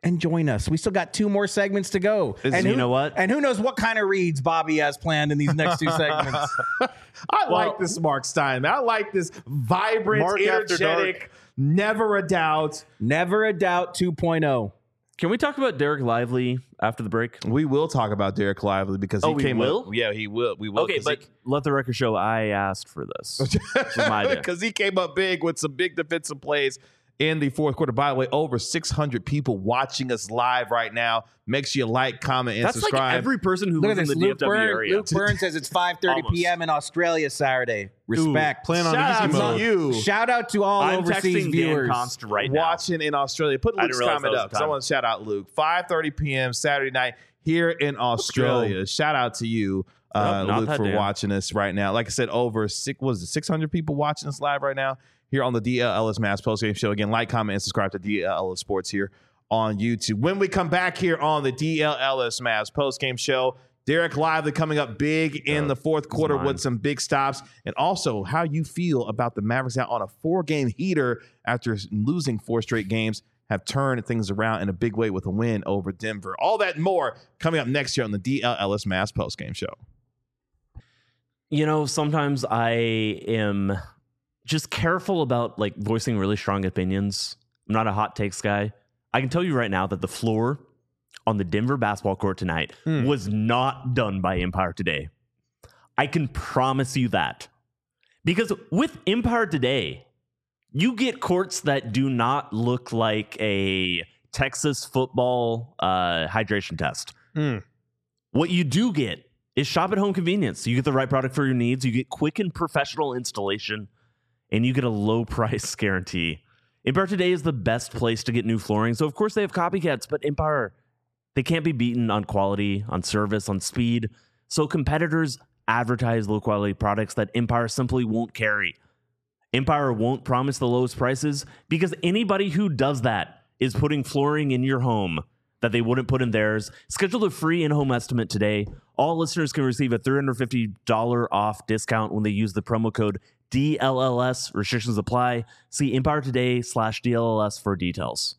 Speaker 4: and join us. We still got two more segments to go.
Speaker 2: Is-
Speaker 4: and
Speaker 2: you
Speaker 4: who,
Speaker 2: know what?
Speaker 4: And who knows what kind of reads Bobby has planned in these next two segments.
Speaker 1: I like this Mark Stein, man. I like this vibrant,
Speaker 3: Mark After
Speaker 1: energetic, never a doubt.
Speaker 4: Never a doubt two point oh.
Speaker 2: Can we talk about Derek Lively after the break?
Speaker 1: We will talk about Derek Lively because he
Speaker 2: Oh, we
Speaker 1: came
Speaker 2: will?
Speaker 1: up. Yeah, he will. We will.
Speaker 2: Okay, but let the record show I asked for this. This is my idea.
Speaker 1: because he came up big with some big defensive plays in the fourth quarter. By the way, over six hundred people watching us live right now. Make sure you like, comment, and
Speaker 2: That's
Speaker 1: subscribe.
Speaker 2: like every person who
Speaker 4: Look at
Speaker 2: lives
Speaker 4: this.
Speaker 2: in the
Speaker 4: Luke
Speaker 2: D F W
Speaker 4: Byrne,
Speaker 2: area.
Speaker 4: Luke Byrne says it's five thirty
Speaker 2: Almost.
Speaker 4: p.m. in Australia Saturday. Respect.
Speaker 3: Ooh, plan on
Speaker 1: Shout
Speaker 3: easy
Speaker 1: out
Speaker 3: mode.
Speaker 1: to you.
Speaker 4: Shout out to all
Speaker 2: I'm
Speaker 4: overseas
Speaker 2: texting
Speaker 4: viewers.
Speaker 2: Dan Const right now.
Speaker 1: watching in Australia. Put
Speaker 2: I
Speaker 1: Luke's
Speaker 2: didn't realize
Speaker 1: comment
Speaker 2: that was
Speaker 1: up
Speaker 2: the
Speaker 1: because I
Speaker 2: time.
Speaker 1: want to shout out Luke. five thirty p.m. Saturday night here in Australia. Shout out to you, uh,
Speaker 2: Nope, not
Speaker 1: Luke,
Speaker 2: that
Speaker 1: for
Speaker 2: damn.
Speaker 1: watching us right now. Like I said, over six was it six hundred people watching us live right now here on the D L Ellis Mavs postgame show. Again, like, comment, and subscribe to D L Ellis Sports here on YouTube. When we come back here on the D L Ellis Mavs postgame show, Derek Lively coming up big in the fourth quarter
Speaker 2: mine.
Speaker 1: with some big stops, and also how you feel about the Mavericks out on a four-game heater after losing four straight games, have turned things around in a big way with a win over Denver. All that and more coming up next year on the D L Ellis Mavs postgame show.
Speaker 2: You know, sometimes I am just careful about like voicing really strong opinions. I'm not a hot takes guy. I can tell you right now that the floor on the Denver basketball court tonight
Speaker 3: Hmm.
Speaker 2: was not done by Empire Today. I can promise you that. Because with Empire Today, you get courts that do not look like a Texas football uh, hydration test.
Speaker 3: Hmm.
Speaker 2: What you do get is shop at home convenience. You get the right product for your needs. You get quick and professional installation, and you get a low price guarantee. Empire Today is the best place to get new flooring. So, of course, they have copycats, but Empire, they can't be beaten on quality, on service, on speed. So competitors advertise low quality products that Empire simply won't carry. Empire won't promise the lowest prices because anybody who does that is putting flooring in your home that they wouldn't put in theirs. Schedule a free in-home estimate today. All listeners can receive a three hundred fifty dollars off discount when they use the promo code D L L S. Restrictions apply. See Empire Today slash D L L S for details.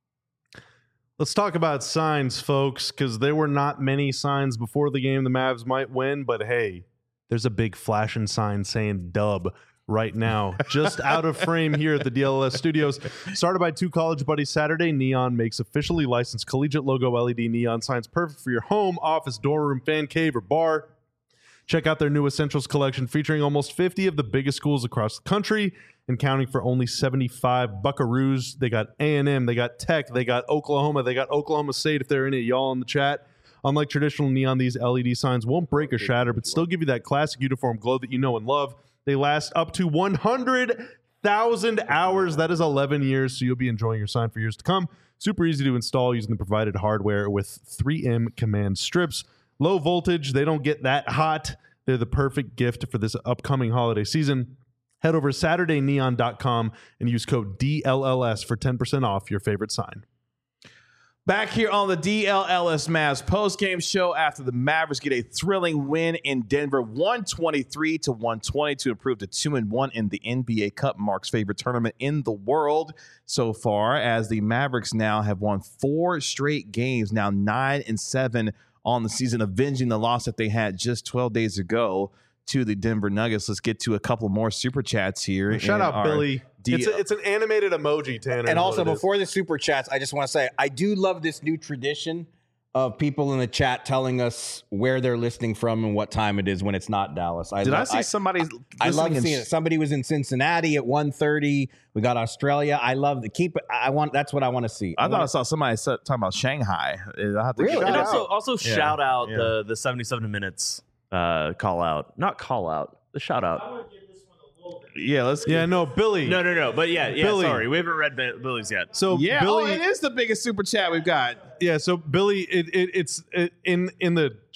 Speaker 3: Let's talk about signs, folks, because there were not many signs before the game the Mavs might win, but hey, there's a big flashing sign saying dub right now, just out of frame here at the D L L S studios. Started by Two College Buddies Saturday, Neon makes officially licensed collegiate logo L E D neon signs perfect for your home, office, dorm room, fan cave, or bar. Check out their new Essentials collection featuring almost fifty of the biggest schools across the country and counting for only seventy-five Buckaroos. They got A and M, they got Tech, they got Oklahoma, they got Oklahoma State if they're in it, y'all in the chat. Unlike traditional neon, these L E D signs won't break or shatter, but still give you that classic uniform glow that you know and love. They last up to one hundred thousand hours. That is eleven years, so you'll be enjoying your sign for years to come. Super easy to install using the provided hardware with three M command strips. Low voltage, they don't get that hot. They're the perfect gift for this upcoming holiday season. Head over to Saturday Neon dot com and use code D L L S for ten percent off your favorite sign.
Speaker 1: Back here on the D L L S Mavs postgame show after the Mavericks get a thrilling win in Denver, one twenty-three to one twenty to improve to two and one in the N B A Cup, Mark's favorite tournament in the world so far, as the Mavericks now have won four straight games, now nine and seven on the season, avenging the loss that they had just twelve days ago to the Denver Nuggets. Let's get to a couple more super chats here.
Speaker 3: Shout
Speaker 1: in
Speaker 3: out
Speaker 1: our
Speaker 3: Billy.
Speaker 1: D-
Speaker 3: It's, a, it's an animated emoji, Tanner.
Speaker 4: And
Speaker 3: is
Speaker 4: also,
Speaker 3: what it is.
Speaker 4: before the super chats, I just want to say I do love this new tradition of people in the chat telling us where they're listening from and what time it is when it's not Dallas. I
Speaker 1: Did
Speaker 4: lo-
Speaker 1: I see somebody?
Speaker 4: I love
Speaker 1: listening in
Speaker 4: seeing it. Somebody was in Cincinnati at one thirty. We got Australia. I love the keep it. I want. That's what I want to see.
Speaker 1: I thought I
Speaker 4: wanna-
Speaker 1: saw somebody sa- talking about Shanghai. I have to
Speaker 4: Really?
Speaker 1: shout
Speaker 2: And
Speaker 1: out.
Speaker 2: also, also
Speaker 1: Yeah,
Speaker 2: shout out
Speaker 1: yeah.
Speaker 2: the the seventy-seven minutes uh, call out, not call out, the shout out.
Speaker 1: Yeah, let's.
Speaker 3: Yeah, no, Billy.
Speaker 2: No, no, no. But yeah, yeah.
Speaker 3: Billy.
Speaker 2: Sorry, we haven't read Bi- Billy's yet.
Speaker 3: So
Speaker 1: Yeah,
Speaker 3: Billy,
Speaker 1: oh, it is the biggest super chat we've got.
Speaker 3: yeah. So Billy, it, it it's it, in in the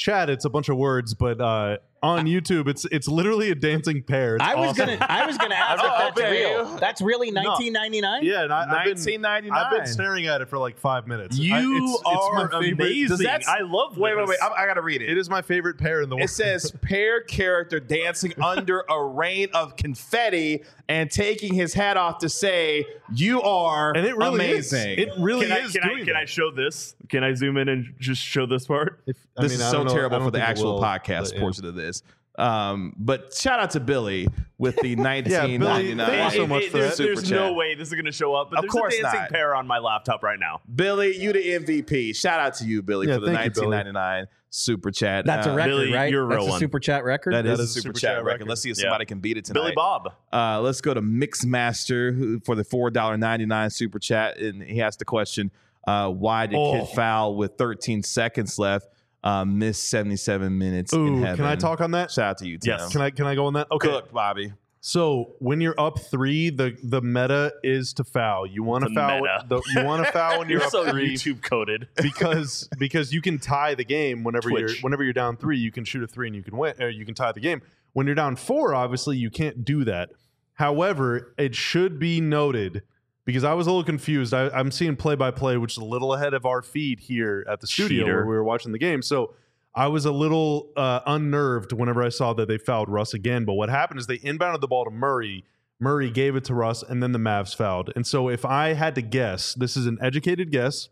Speaker 3: chat, it's a bunch of words, but uh, on YouTube, it's it's literally a dancing pair. It's
Speaker 5: I was
Speaker 3: awesome.
Speaker 5: gonna, I was gonna ask if
Speaker 1: Oh,
Speaker 5: that's
Speaker 1: man.
Speaker 5: real. That's really nineteen ninety-nine.
Speaker 3: Yeah, and I, I've been
Speaker 1: nineteen ninety-nine.
Speaker 3: I've been staring at it for like five minutes.
Speaker 2: You
Speaker 3: I, it's, it's my
Speaker 2: are
Speaker 3: favorite-
Speaker 2: amazing.
Speaker 1: Does that-
Speaker 2: I love
Speaker 1: Wait, wait,
Speaker 2: this.
Speaker 1: wait. I, I got to read it.
Speaker 3: It is my favorite pair in the world.
Speaker 1: It says pair character dancing under a rain of confetti and taking his hat off to say, "You are
Speaker 3: and it really
Speaker 1: amazing."
Speaker 3: is. It really
Speaker 2: Can I,
Speaker 3: is
Speaker 2: can,
Speaker 3: doing
Speaker 2: I, can I
Speaker 3: that.
Speaker 2: show this? Can I zoom in and just show this part?
Speaker 3: If- I
Speaker 1: this
Speaker 3: mean,
Speaker 1: is
Speaker 3: I
Speaker 1: so
Speaker 3: don't know- I
Speaker 1: terrible
Speaker 3: don't
Speaker 1: for the
Speaker 3: think it
Speaker 1: actual
Speaker 3: will,
Speaker 1: podcast
Speaker 3: but, yeah.
Speaker 1: portion of this. Um, but shout out to Billy with the nineteen ninety-nine.
Speaker 3: thank you so much
Speaker 2: It-
Speaker 3: for
Speaker 2: there's
Speaker 3: that.
Speaker 2: there's
Speaker 1: Super
Speaker 2: no
Speaker 1: chat.
Speaker 2: way this is going to show up, but
Speaker 1: Of
Speaker 2: there's
Speaker 1: course
Speaker 2: a dancing
Speaker 1: not.
Speaker 2: pair on my laptop right now.
Speaker 1: Billy, you the M V P. Shout out to you, Billy,
Speaker 3: Yeah,
Speaker 1: for the
Speaker 3: thank you,
Speaker 1: nineteen
Speaker 3: Billy.
Speaker 1: ninety-nine super chat.
Speaker 5: That's a
Speaker 1: Uh,
Speaker 5: record,
Speaker 2: Billy,
Speaker 5: right?
Speaker 2: you're a
Speaker 5: That's
Speaker 2: real
Speaker 5: a
Speaker 2: one.
Speaker 5: super chat record.
Speaker 1: That
Speaker 3: That
Speaker 1: is a
Speaker 3: is a
Speaker 1: super,
Speaker 3: super
Speaker 1: chat,
Speaker 3: chat
Speaker 1: record.
Speaker 3: record.
Speaker 1: Let's see if
Speaker 2: Yeah.
Speaker 1: somebody can beat it tonight.
Speaker 2: Billy Bob.
Speaker 1: Uh, let's go to Mixmaster who, for the four dollars and ninety-nine cents super chat. And he asked the question, uh, why did
Speaker 3: Oh.
Speaker 1: Kid foul with thirteen seconds left, uh, miss seventy-seven minutes in
Speaker 3: Ooh,
Speaker 1: heaven?
Speaker 3: can I talk on that?
Speaker 1: Shout out to you, Tim.
Speaker 2: Yes.
Speaker 3: Can I can I go on that? Okay.
Speaker 1: Cook, Bobby.
Speaker 3: So when you're up three, the the meta is to foul. You want to
Speaker 2: The
Speaker 3: foul.
Speaker 2: meta.
Speaker 3: The, you want to foul when you're,
Speaker 2: You're
Speaker 3: up
Speaker 2: so
Speaker 3: three
Speaker 2: YouTube coded.
Speaker 3: because because you can tie the game whenever
Speaker 2: Twitch.
Speaker 3: you're whenever you're down three. You can shoot a three and you can win. Or you can tie the game. When you're down four, obviously you can't do that. However, it should be noted because I was a little confused. I, I'm seeing play by play, which is a little ahead of our feed here at the studio
Speaker 2: Cheater.
Speaker 3: where we were watching the game. So I was a little uh, unnerved whenever I saw that they fouled Russ again. But what happened is they inbounded the ball to Murray. Murray gave it to Russ, and then the Mavs fouled. And so if I had to guess, this is an educated guess.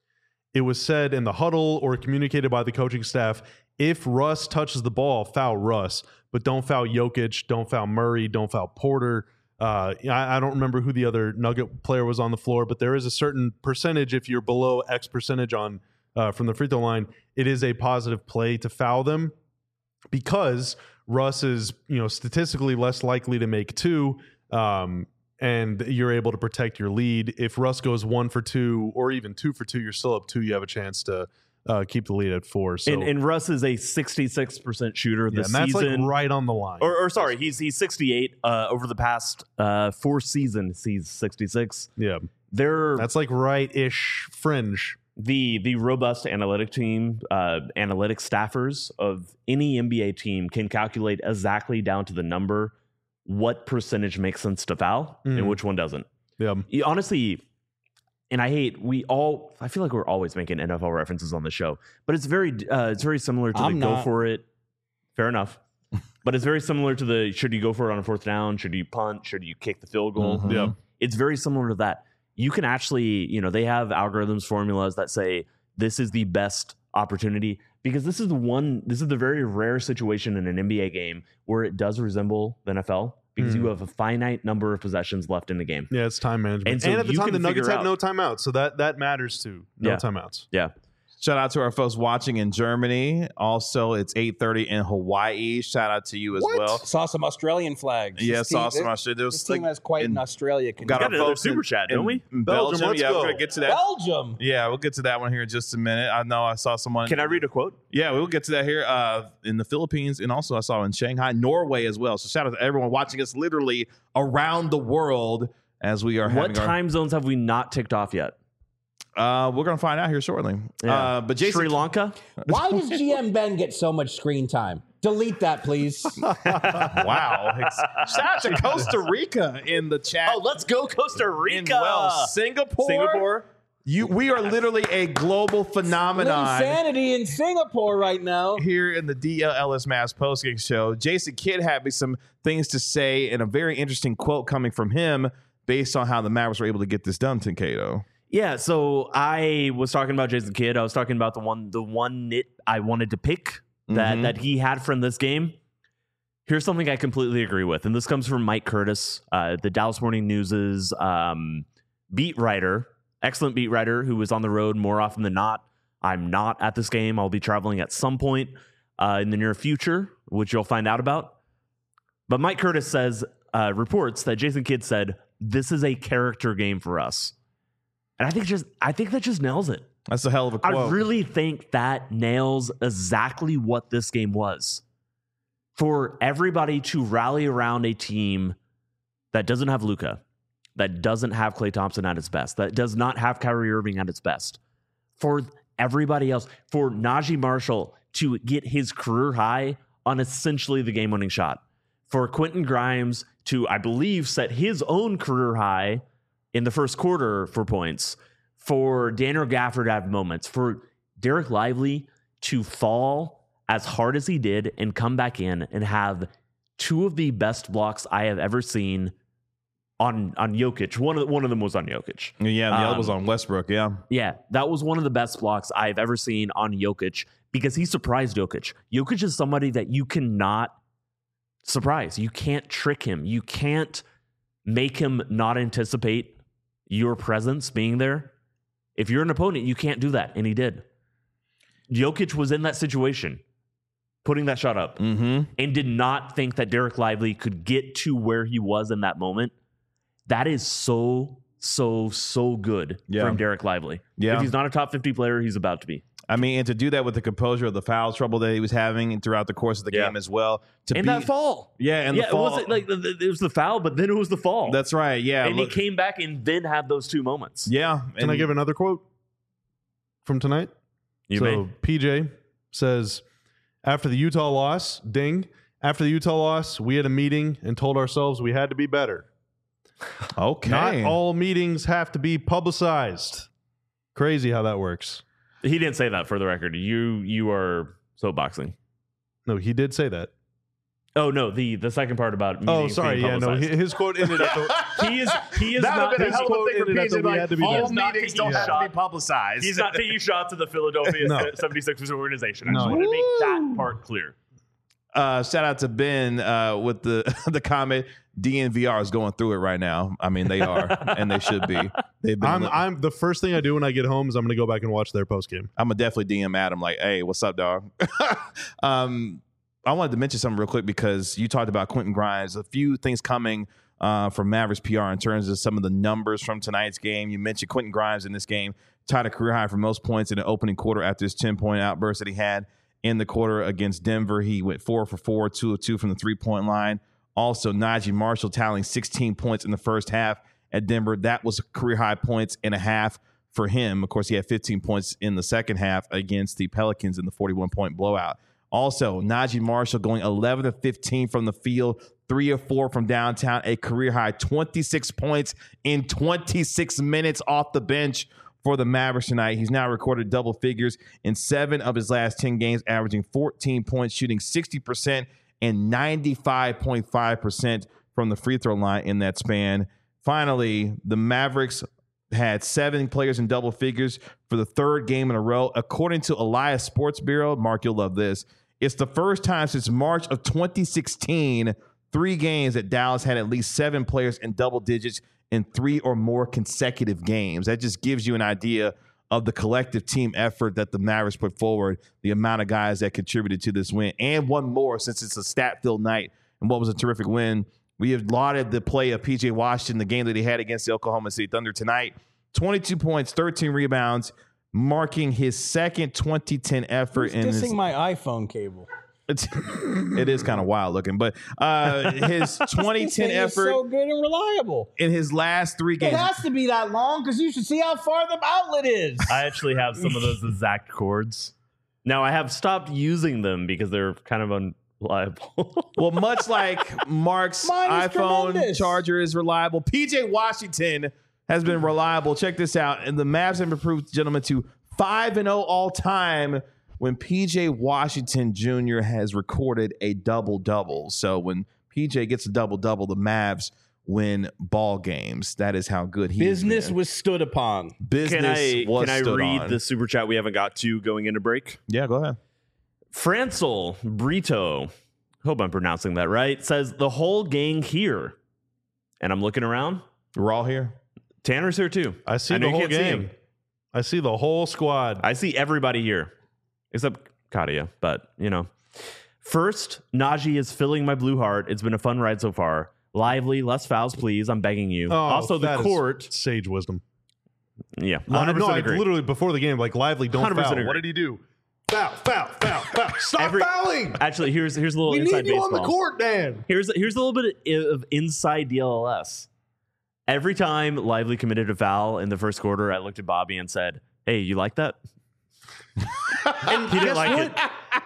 Speaker 3: It was said in the huddle or communicated by the coaching staff, if Russ touches the ball, foul Russ. But don't foul Jokic, don't foul Murray, don't foul Porter. Uh, I, I don't remember who the other Nugget player was on the floor, but there is a certain percentage if you're below X percentage on uh, from the free throw line, it is a positive play to foul them because Russ is, you know, statistically less likely to make two, um, and you're able to protect your lead. If Russ goes one for two or even two for two, you're still up two. You have a chance to uh, keep the lead at four. So
Speaker 2: And, and Russ is a sixty-six percent shooter
Speaker 3: yeah,
Speaker 2: this
Speaker 3: and that's
Speaker 2: season.
Speaker 3: like right on the line.
Speaker 2: or, or sorry, he's he's sixty-eight uh, over the past uh, four seasons. He's sixty-six.
Speaker 3: yeah,
Speaker 2: They're
Speaker 3: that's like right-ish fringe.
Speaker 2: the the robust analytic team, uh, analytic staffers of any N B A team can calculate exactly down to the number what percentage makes sense to foul
Speaker 3: Mm.
Speaker 2: and which one doesn't.
Speaker 3: Yeah,
Speaker 2: You- honestly, and I hate we all. I feel like we're always making N F L references on the show, but it's very uh, it's very similar to
Speaker 5: I'm
Speaker 2: the go
Speaker 5: not.
Speaker 2: for it. Fair enough. But it's very similar to the should you go for it on a fourth down? Should you punt? Should you kick the field goal?
Speaker 1: Mhm.
Speaker 3: yeah.
Speaker 2: It's very similar to that. You can actually, you know, they have algorithms, formulas that say this is the best opportunity because this is the one, this is the very rare situation in an N B A game where it does resemble the N F L because you
Speaker 3: Mhm.
Speaker 2: have a finite number of possessions left in the game.
Speaker 3: Yeah, it's time management.
Speaker 2: And
Speaker 3: And,
Speaker 2: so
Speaker 3: at the
Speaker 2: you
Speaker 3: time,
Speaker 2: can
Speaker 3: the Nuggets
Speaker 2: figure
Speaker 3: had
Speaker 2: out-
Speaker 3: no timeouts, so that that matters too. No
Speaker 2: Yeah.
Speaker 3: timeouts.
Speaker 2: Yeah.
Speaker 1: Shout out to our folks watching in Germany. Also, it's eight thirty in Hawaii. Shout out to you as well.
Speaker 5: Saw some Australian flags.
Speaker 1: Yeah,
Speaker 5: This
Speaker 1: saw
Speaker 5: team-
Speaker 1: some Australia. There
Speaker 5: This
Speaker 1: was
Speaker 5: team
Speaker 1: like
Speaker 5: has quite
Speaker 1: in-
Speaker 5: an Australia. Can
Speaker 1: got
Speaker 2: got
Speaker 1: our
Speaker 2: another
Speaker 1: folks
Speaker 2: super
Speaker 1: in-
Speaker 2: chat,
Speaker 1: in
Speaker 2: don't we?
Speaker 1: Belgium.
Speaker 3: Belgium, let's
Speaker 1: yeah,
Speaker 3: go.
Speaker 1: we're gonna get to that.
Speaker 5: Belgium.
Speaker 1: Yeah, we'll get to that one here in just a minute. I know I saw someone.
Speaker 2: Can I read a quote?
Speaker 1: Yeah, we'll get to that here uh, in the Philippines, and also I saw in Shanghai, Norway as well. So shout out to everyone watching us literally around the world as we are
Speaker 2: What
Speaker 1: having our.
Speaker 2: time zones have we not ticked off yet?
Speaker 1: Uh, we're gonna find out here shortly.
Speaker 2: Yeah.
Speaker 1: Uh, but Jason,
Speaker 2: Sri Lanka?
Speaker 5: Why does G M Ben get so much screen time? Delete that, please.
Speaker 1: wow! Shout out to Costa Rica in the chat.
Speaker 2: Oh, let's go Costa Rica.
Speaker 1: in well, Singapore.
Speaker 2: Singapore.
Speaker 1: You, we are literally a global phenomenon
Speaker 5: Insanity in Singapore right now.
Speaker 1: here in the D L L S Mavs postgame show. Jason Kidd had me some things to say and a very interesting quote coming from him based on how the Mavericks were able to get this done, Tinkato.
Speaker 2: Yeah, so I was talking about Jason Kidd. I was talking about the one the one nit I wanted to pick that,
Speaker 1: Mhm.
Speaker 2: that he had from this game. Here's something I completely agree with, and this comes from Mike Curtis, uh, the Dallas Morning News's um, beat writer, excellent beat writer who was on the road more often than not. I'm not at this game. I'll be traveling at some point uh, in the near future, which you'll find out about. But Mike Curtis says, uh, reports that Jason Kidd said, this is a character game for us. And I think just I think that just nails it.
Speaker 1: That's a hell of a quote.
Speaker 2: I really think that nails exactly what this game was. For everybody to rally around a team that doesn't have Luka, that doesn't have Klay Thompson at its best, that does not have Kyrie Irving at its best. For everybody else, for Najee Marshall to get his career high on essentially the game-winning shot. For Quentin Grimes to, I believe, set his own career high in the first quarter for points. For Daniel Gafford to have moments. For Derek Lively to fall as hard as he did and come back in and have two of the best blocks I have ever seen on on Jokic. One of the, one of them was on Jokic.
Speaker 1: Yeah, the
Speaker 2: Um,
Speaker 1: other was on Westbrook. Yeah,
Speaker 2: Yeah, that was one of the best blocks I've ever seen on Jokic because he surprised Jokic. Jokic is somebody that you cannot surprise. You can't trick him. You can't make him not anticipate your presence being there. If you're an opponent, you can't do that, and he did. Jokic was in that situation, putting that shot up,
Speaker 1: mm-hmm.
Speaker 2: and did not think that Derek Lively could get to where he was in that moment. That is so, so, so good
Speaker 1: Yeah.
Speaker 2: from Derek Lively.
Speaker 1: Yeah.
Speaker 2: If he's not a top fifty player, he's about to be.
Speaker 1: I mean, and to do that with the composure of the foul trouble that he was having throughout the course of the
Speaker 2: Yeah.
Speaker 1: game as well. To
Speaker 2: And
Speaker 1: be,
Speaker 2: that fall.
Speaker 1: yeah, and
Speaker 2: yeah,
Speaker 1: the fall.
Speaker 2: it wasn't like the, the- it was the foul, but then it was the fall.
Speaker 1: That's right. Yeah,
Speaker 2: and
Speaker 1: look-
Speaker 2: he came back and then had those two moments.
Speaker 1: yeah.
Speaker 3: Can
Speaker 1: and
Speaker 3: I give another quote from tonight?
Speaker 2: You
Speaker 3: so
Speaker 2: may.
Speaker 3: P J says, after the Utah loss, ding, after the Utah loss, we had a meeting and told ourselves we had to be better.
Speaker 1: Okay.
Speaker 3: Not all meetings have to be publicized. Crazy how that works.
Speaker 2: He didn't say that for the record. You you are soapboxing.
Speaker 3: No, he did say that.
Speaker 2: Oh no, the the second part about
Speaker 3: Oh,
Speaker 2: meetings
Speaker 3: sorry.
Speaker 2: being
Speaker 3: Yeah, no,
Speaker 2: publicized.
Speaker 3: his his quote ended at the,
Speaker 2: he is he is
Speaker 1: That
Speaker 2: not
Speaker 1: would have been a
Speaker 2: his
Speaker 1: hell of a
Speaker 2: quote
Speaker 1: thing for
Speaker 3: ended at
Speaker 1: P J.
Speaker 3: the we
Speaker 1: Like,
Speaker 3: had to be
Speaker 1: all
Speaker 3: better.
Speaker 2: He's not
Speaker 1: meetings
Speaker 2: taking
Speaker 1: don't have to
Speaker 2: shot.
Speaker 1: be publicized.
Speaker 2: He's not taking shots at the Philadelphia
Speaker 3: No.
Speaker 2: seventy-sixers organization. I just
Speaker 3: No.
Speaker 2: wanted to make that part clear.
Speaker 1: Uh, shout out to Ben uh, with the the comment. D N V R is going through it right now. I mean, they are, and they should be. They've been.
Speaker 3: I'm,
Speaker 1: li-
Speaker 3: I'm the first thing I do when I get home is I'm going to go back and watch their post game.
Speaker 1: I'm gonna definitely D M Adam like, hey, what's up, dog? um, I wanted to mention something real quick because you talked about Quentin Grimes. A few things coming uh, from Mavericks P R in terms of some of the numbers from tonight's game. You mentioned Quentin Grimes in this game tied a career high for most points in the opening quarter after his ten point outburst that he had in the quarter against Denver. He went four for four, two of two from the three point line. Also, Najee Marshall tallying sixteen points in the first half at Denver. That was career high points and a half for him. Of course, he had fifteen points in the second half against the Pelicans in the forty-one point blowout. Also, Najee Marshall going eleven to fifteen from the field, three or four from downtown, a career high twenty-six points in twenty-six minutes off the bench for the Mavericks tonight. He's now recorded double figures in seven of his last ten games, averaging fourteen points, shooting sixty percent and ninety-five point five percent from the free throw line in that span. Finally, the Mavericks had seven players in double figures for the third game in a row. According to Elias Sports Bureau, Mark, you'll love this. It's the first time since March of twenty sixteen, three games that Dallas had at least seven players in double digits in three or more consecutive games. That just gives you an idea of the collective team effort that the Mavericks put forward, the amount of guys that contributed to this win, and one more since it's a stat-filled night and what was a terrific win. We have lauded the play of P J Washington, the game that he had against the Oklahoma City Thunder tonight. twenty-two points, thirteen rebounds, marking his second twenty ten effort.
Speaker 5: Who's
Speaker 1: in
Speaker 5: dissing
Speaker 1: his,
Speaker 5: my iPhone cable?
Speaker 1: it's, it is kind of wild looking, but uh, his twenty
Speaker 5: This
Speaker 1: ten
Speaker 5: thing is
Speaker 1: effort
Speaker 5: so good and reliable.
Speaker 1: in his last three
Speaker 5: It
Speaker 1: games.
Speaker 5: has to be that long because you should see how far the outlet is.
Speaker 2: I actually have some of those exact cords. Now I have stopped using them because they're kind of unreliable.
Speaker 1: Well, much like Mark's
Speaker 5: Mine is
Speaker 1: iPhone
Speaker 5: tremendous.
Speaker 1: charger is reliable, P J Washington has been reliable. Check this out. And the Mavs have improved, gentlemen, to five and oh all time when P J Washington Junior has recorded a double-double. So when P J gets a double-double, the Mavs win ball games. That is how good he
Speaker 5: Business
Speaker 1: is.
Speaker 5: was stood upon.
Speaker 1: Business
Speaker 2: Can I
Speaker 1: was
Speaker 2: can I
Speaker 1: stood
Speaker 2: read
Speaker 1: on.
Speaker 2: the super chat we haven't got to going into break?
Speaker 1: Yeah, go ahead.
Speaker 2: Francel Brito, hope I'm pronouncing that right, says the whole gang here. And I'm looking around.
Speaker 1: We're all here.
Speaker 2: Tanner's here too.
Speaker 3: I see
Speaker 2: know
Speaker 3: the
Speaker 2: you
Speaker 3: whole
Speaker 2: can't see
Speaker 3: game.
Speaker 2: him.
Speaker 3: I see the whole squad.
Speaker 2: I see everybody here except Katia, but you know. First, Najee is filling my blue heart. It's been a fun ride so far. Lively, less fouls, please. I'm begging you.
Speaker 3: Oh,
Speaker 2: also, the
Speaker 3: that is
Speaker 2: court.
Speaker 3: sage wisdom.
Speaker 2: Yeah,
Speaker 3: Uh,
Speaker 2: one hundred
Speaker 3: no,
Speaker 2: percent
Speaker 3: I
Speaker 2: agree.
Speaker 3: literally before the game, like Lively, don't
Speaker 2: one hundred percent
Speaker 3: foul.
Speaker 2: agree.
Speaker 3: What did he do? Foul, foul, foul, foul. Stop
Speaker 2: Every-
Speaker 3: fouling.
Speaker 2: Actually, here's here's a little
Speaker 3: We
Speaker 2: inside
Speaker 3: need you
Speaker 2: baseball.
Speaker 3: on the court, Dan.
Speaker 2: Here's here's a little bit of inside D L L S. Every time Lively committed a foul in the first quarter, I looked at Bobby and said, "Hey, you like that?"
Speaker 3: And
Speaker 2: He didn't
Speaker 3: guess
Speaker 2: like
Speaker 3: what?
Speaker 2: it.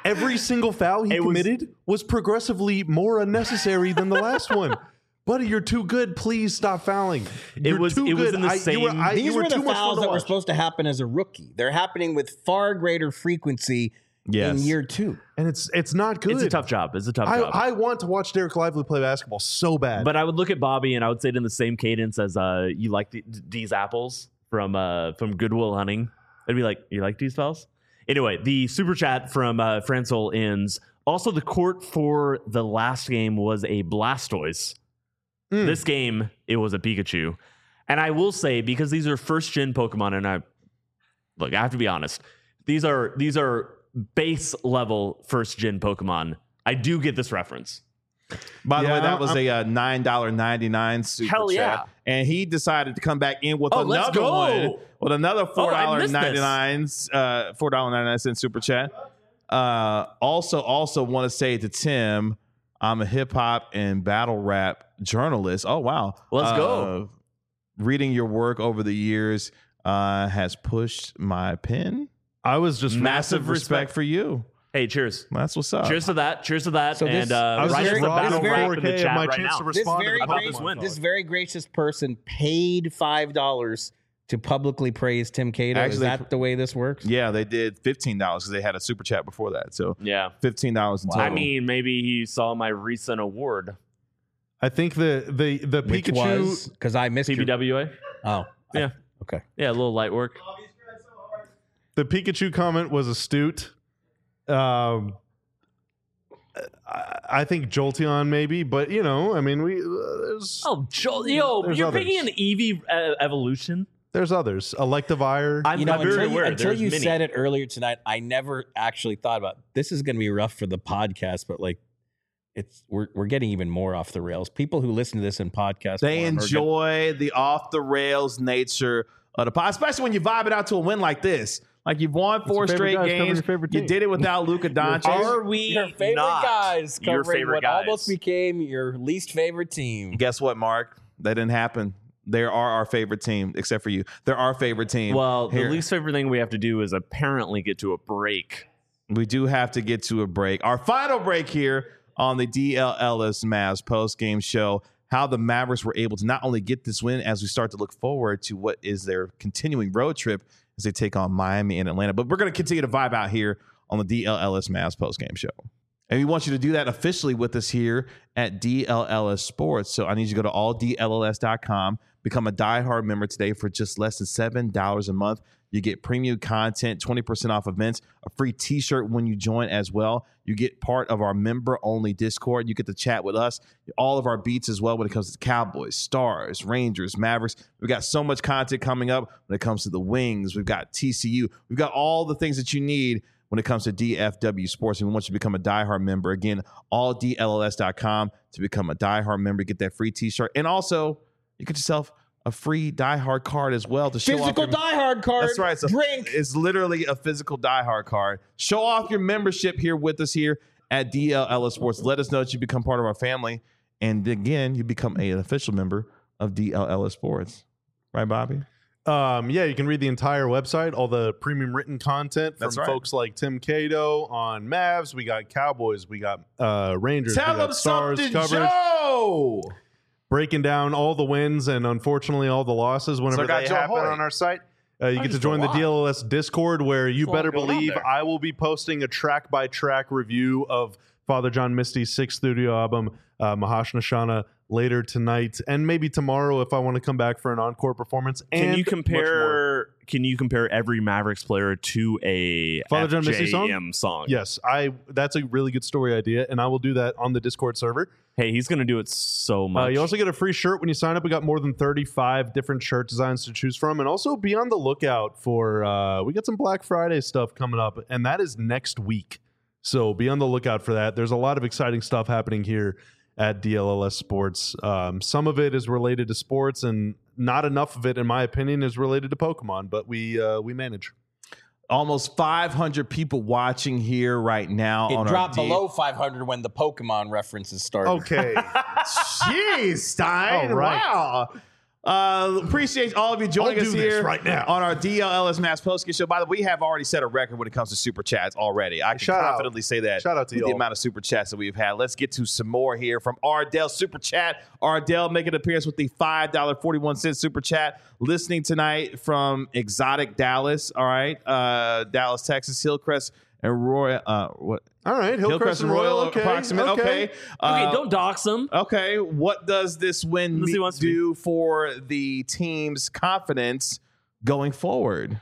Speaker 3: Every single foul he
Speaker 2: It was-
Speaker 3: committed was, progressively more unnecessary than the last one. Buddy, you're too good. Please stop fouling. You're
Speaker 2: was-
Speaker 3: too
Speaker 2: it was
Speaker 3: good.
Speaker 2: in the
Speaker 3: I- you were,
Speaker 2: same-
Speaker 3: I,
Speaker 5: These
Speaker 3: you
Speaker 5: were,
Speaker 3: were
Speaker 5: the
Speaker 3: too much fun
Speaker 5: fouls
Speaker 3: to
Speaker 5: that were
Speaker 3: watch.
Speaker 5: supposed to happen as a rookie. They're happening with far greater frequency
Speaker 1: Yes.
Speaker 5: in year two.
Speaker 3: And it's it's not good.
Speaker 2: It's a tough job. It's a tough
Speaker 3: I,
Speaker 2: job.
Speaker 3: I want to watch Derek Lively play basketball so bad.
Speaker 2: But I would look at Bobby and I would say it in the same cadence as uh, you like the, these apples from uh, from Goodwill Hunting. I'd be like, you like these fellas? Anyway, the super chat from uh, Francel ends. Also, the court for the last game was a Blastoise.
Speaker 3: Mm.
Speaker 2: This game, it was a Pikachu. And I will say, because these are first gen Pokemon, and I look, I have to be honest, these are these are base level first gen Pokemon. I do get this reference.
Speaker 1: By the
Speaker 3: Yeah,
Speaker 1: way, that was
Speaker 3: I'm-
Speaker 1: a uh, nine dollar ninety-nine super
Speaker 2: Hell
Speaker 1: chat.
Speaker 2: yeah.
Speaker 1: And he decided to come back in with
Speaker 2: Oh,
Speaker 1: another
Speaker 2: let's go.
Speaker 1: one with another four
Speaker 2: Oh, I
Speaker 1: dollar
Speaker 2: missed this.
Speaker 1: ninety-nine uh four dollar ninety-nine cent super chat. Uh also also want to say to Tim, I'm a hip hop and battle rap journalist. Oh wow.
Speaker 2: Let's
Speaker 1: Uh,
Speaker 2: go.
Speaker 1: Reading your work over the years uh has pushed my pen.
Speaker 3: I was just
Speaker 1: Massive respect for you.
Speaker 2: Hey, cheers.
Speaker 1: That's what's up.
Speaker 2: Cheers to that. Cheers to that.
Speaker 5: So this-
Speaker 2: and uh,
Speaker 3: I was
Speaker 2: right
Speaker 5: just
Speaker 2: as the
Speaker 5: robbing
Speaker 2: battle
Speaker 5: this
Speaker 2: rap
Speaker 5: very
Speaker 2: in the
Speaker 3: four K of
Speaker 2: chat
Speaker 3: my
Speaker 2: right
Speaker 3: chance
Speaker 2: now.
Speaker 3: to
Speaker 5: This
Speaker 3: respond to
Speaker 5: very,
Speaker 3: the
Speaker 5: gracious,
Speaker 2: this win.
Speaker 5: this very gracious person paid five dollars to publicly praise Tim Cato. Is
Speaker 1: Actually,
Speaker 5: that the way this works?
Speaker 1: Yeah, they did fifteen dollars because they had a super chat before that. So
Speaker 2: Yeah.
Speaker 1: fifteen dollars in total.
Speaker 2: I mean, maybe he saw my recent award.
Speaker 3: I think the the the
Speaker 5: Which
Speaker 3: Pikachu.
Speaker 5: was because I missed
Speaker 2: P B
Speaker 5: your,
Speaker 2: W A?
Speaker 5: Oh,
Speaker 2: Yeah.
Speaker 5: okay.
Speaker 2: Yeah, a little light work.
Speaker 3: The Pikachu comment was astute. Um, I, I think Jolteon maybe, but you know, I mean, we uh, there's
Speaker 2: Oh, Joel, yo,
Speaker 3: There's
Speaker 2: you're
Speaker 3: others.
Speaker 2: picking an Eevee uh, evolution?
Speaker 3: there's others. Electivire.
Speaker 2: I'm,
Speaker 5: You know,
Speaker 2: I'm very
Speaker 5: until you,
Speaker 2: aware.
Speaker 5: until
Speaker 2: There's
Speaker 5: you
Speaker 2: many.
Speaker 5: said it earlier tonight, I never actually thought about this is going to be rough for the podcast, but like it's we're we're getting even more off the rails. People who listen to this in podcast,
Speaker 1: They
Speaker 5: form are
Speaker 1: enjoy the off the rails nature of the pod, especially when you vibe it out to a win like this. Like you've won four
Speaker 3: your favorite
Speaker 1: straight
Speaker 3: guys covering
Speaker 1: games.
Speaker 3: your favorite
Speaker 1: You
Speaker 3: team.
Speaker 1: did it without Luka
Speaker 5: gonna-
Speaker 1: Doncic.
Speaker 2: Are we
Speaker 5: your favorite
Speaker 2: not
Speaker 5: guys
Speaker 2: your
Speaker 5: covering
Speaker 2: favorite
Speaker 5: what
Speaker 2: guys?
Speaker 5: almost became your least favorite team.
Speaker 1: Guess what, Mark? That didn't happen. They are our favorite team, except for you. They're our favorite team.
Speaker 2: Well,
Speaker 1: Here.
Speaker 2: the least favorite thing we have to do is apparently get to a break.
Speaker 1: We do have to get to a break. Our final break here on the D L Ellis Mavs post game show. How the Mavericks were able to not only get this win as we start to look forward to what is their continuing road trip as they take on Miami and Atlanta. But we're going to continue to vibe out here on the D L Ellis Mavs post game show. And we want you to do that officially with us here at D L L S Sports. So I need you to go to all D L L S dot com, become a diehard member today for just less than seven dollars a month. You get premium content, twenty percent off events, a free t-shirt when you join as well. You get part of our member-only Discord. You get to chat with us, all of our beats as well when it comes to Cowboys, Stars, Rangers, Mavericks. We've got so much content coming up when it comes to the Wings. We've got T C U. We've got all the things that you need when it comes to D F W Sports. And we want you to become a diehard member. Again, all D L L S dot com to become a diehard member. Get that free t-shirt. And also, you get yourself a free diehard card as well to show
Speaker 5: Physical
Speaker 1: off your,
Speaker 5: diehard card.
Speaker 1: That's right. It's, a,
Speaker 5: drink.
Speaker 1: it's literally a physical diehard card. Show off your membership here with us here at D L L S Sports. Let us know that you become part of our family. And again, you become an official member of D L L S Sports. Right, Bobby?
Speaker 3: Um, yeah, you can read the entire website, all the premium written content from
Speaker 1: That's right.
Speaker 3: folks like Tim Cato on Mavs. We got Cowboys, we got uh, Rangers,
Speaker 1: Tell
Speaker 3: we got
Speaker 1: them
Speaker 3: Stars
Speaker 1: something,
Speaker 3: coverage,
Speaker 1: Joe!
Speaker 3: breaking down all the wins and unfortunately all the losses whenever
Speaker 1: So got
Speaker 3: they
Speaker 1: Joe
Speaker 3: happen
Speaker 1: Hoy.
Speaker 3: on our site. Uh, you get to
Speaker 2: just
Speaker 3: join
Speaker 2: a
Speaker 3: the
Speaker 2: lot.
Speaker 3: D L L S Discord where you
Speaker 2: There's a lot
Speaker 3: better
Speaker 2: going on
Speaker 3: believe
Speaker 2: there.
Speaker 3: I will be posting a track by track review of Father John Misty's sixth studio album, uh, Mahashanashana, later tonight and maybe tomorrow if I want to come back for an encore performance.
Speaker 2: Can
Speaker 3: and
Speaker 2: you
Speaker 3: much more.
Speaker 2: compare? Can you compare every Mavericks player to a
Speaker 3: Father John Misty song?
Speaker 2: F J M song?
Speaker 3: Yes, I. That's a really good story idea, and I will do that on the Discord server.
Speaker 2: Hey, he's gonna do it so
Speaker 3: Uh,
Speaker 2: much.
Speaker 3: you also get a free shirt when you sign up. We got more than thirty-five different shirt designs to choose from, and also be on the lookout for. Uh, we got some Black Friday stuff coming up, and that is next week. So be on the lookout for that. There's a lot of exciting stuff happening here at D L L S Sports. Um, some of it is related to sports, and not enough of it, in my opinion, is related to Pokemon. But we uh, we manage.
Speaker 1: Almost five hundred people watching here right now.
Speaker 5: It
Speaker 1: on
Speaker 5: dropped
Speaker 1: our D-
Speaker 5: below five hundred when the Pokemon references started.
Speaker 3: Okay.
Speaker 1: Jeez, Stein.
Speaker 3: All right.
Speaker 1: Wow. Uh, appreciate all of you joining
Speaker 3: I'll
Speaker 1: us
Speaker 3: do this
Speaker 1: here
Speaker 3: right now.
Speaker 1: on our D L L S Mavs postgame show. By the way, we have already set a record when it comes to super chats already. I can
Speaker 3: Shout out.
Speaker 1: confidently say that.
Speaker 3: Shout out to
Speaker 1: with the
Speaker 3: y'all.
Speaker 1: amount of super chats that we've had. Let's get to some more here from Ardell Super Chat. Ardell making an appearance with the five dollars and forty-one cents super chat. Listening tonight from Exotic Dallas. All right, uh, Dallas, Texas, Hillcrest and Roy. Uh, what?
Speaker 3: All right, Hillcrest, and Royal. Okay,
Speaker 1: approximate. Okay.
Speaker 3: okay.
Speaker 1: Uh,
Speaker 2: Okay, don't dox them.
Speaker 1: Okay, what does this win
Speaker 2: Unless he
Speaker 1: me-
Speaker 2: wants to
Speaker 1: do for the team's confidence going forward?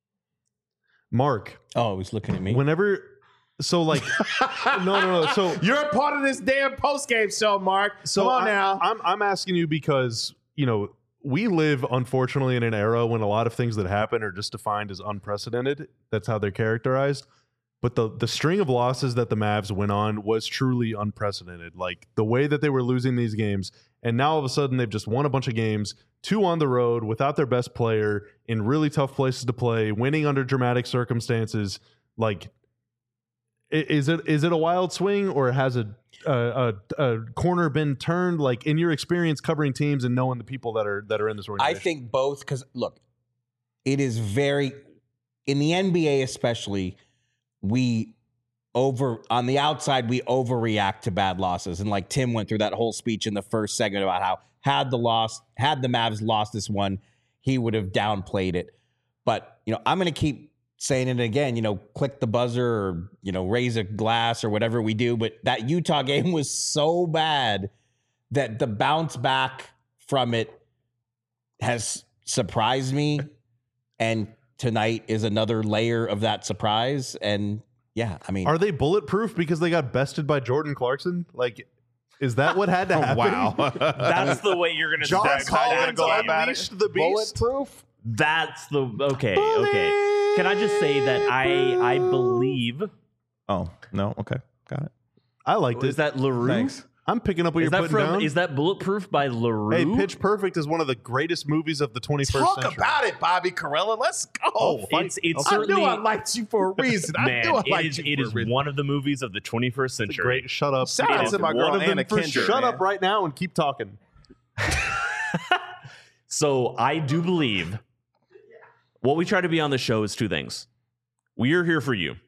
Speaker 3: Mark,
Speaker 4: Oh, he's looking at me.
Speaker 3: whenever, so like, no, no, no. So,
Speaker 1: You're a part of this damn postgame show, Mark.
Speaker 3: so
Speaker 1: Come on
Speaker 3: I,
Speaker 1: now.
Speaker 3: I'm I'm asking you because you know we live unfortunately in an era when a lot of things that happen are just defined as unprecedented. That's how they're characterized. But the the string of losses that the Mavs went on was truly unprecedented. Like the way that they were losing these games, and now all of a sudden they've just won a bunch of games, two on the road without their best player in really tough places to play, winning under dramatic circumstances. Like, i- is it is it a wild swing, or has a a, a, a corner been turned? Like in your experience covering teams and knowing the people that are that are in this
Speaker 4: I
Speaker 3: organization,
Speaker 4: think both, because look, it is very, in the N B A especially, we over on the outside we overreact to bad losses, and like Tim went through that whole speech in the first segment about how had the loss had the Mavs lost this one, he would have downplayed it. But you know, I'm going to keep saying it again. You know, click the buzzer or you know raise a glass or whatever we do. But that Utah game was so bad that the bounce back from it has surprised me, and tonight is another layer of that surprise. And yeah, I mean,
Speaker 3: are they bulletproof because they got bested by Jordan Clarkson? Like, is that what had to happen?
Speaker 1: Wow.
Speaker 2: That's the way you're gonna
Speaker 3: John
Speaker 2: describe
Speaker 3: Collins
Speaker 2: that game.
Speaker 3: unleashed the beast.
Speaker 4: bulletproof.
Speaker 2: That's the okay. Okay. Can I just say that I I believe
Speaker 1: Oh, no. Okay. Got it.
Speaker 3: I liked
Speaker 2: is
Speaker 3: it.
Speaker 2: that LaRue?
Speaker 1: Thanks.
Speaker 3: I'm picking up what
Speaker 2: Is
Speaker 3: you're
Speaker 2: that
Speaker 3: putting
Speaker 2: from?
Speaker 3: down.
Speaker 2: Is that Bulletproof by LaRue?
Speaker 3: Hey, Pitch Perfect is one of the greatest movies of the twenty-first
Speaker 1: Talk
Speaker 3: century.
Speaker 1: about it, Bobby Carella. Let's go.
Speaker 3: Oh, fight.
Speaker 2: It's it's
Speaker 1: I
Speaker 2: certainly
Speaker 1: knew I liked you for a reason. I
Speaker 2: man.
Speaker 1: knew I
Speaker 2: It
Speaker 1: liked
Speaker 2: is
Speaker 1: you
Speaker 2: it
Speaker 1: for
Speaker 2: is
Speaker 1: a reason.
Speaker 2: one of the movies of the twenty-first century.
Speaker 3: Great. Shut up.
Speaker 1: Shout out
Speaker 2: It
Speaker 1: to
Speaker 2: is
Speaker 1: my girl
Speaker 2: one of
Speaker 3: them
Speaker 1: Anna
Speaker 3: for
Speaker 1: Kendrick.
Speaker 3: Shut
Speaker 1: man.
Speaker 3: up right now and keep talking.
Speaker 2: So I do believe what we try to be on the show is two things. We are here for you.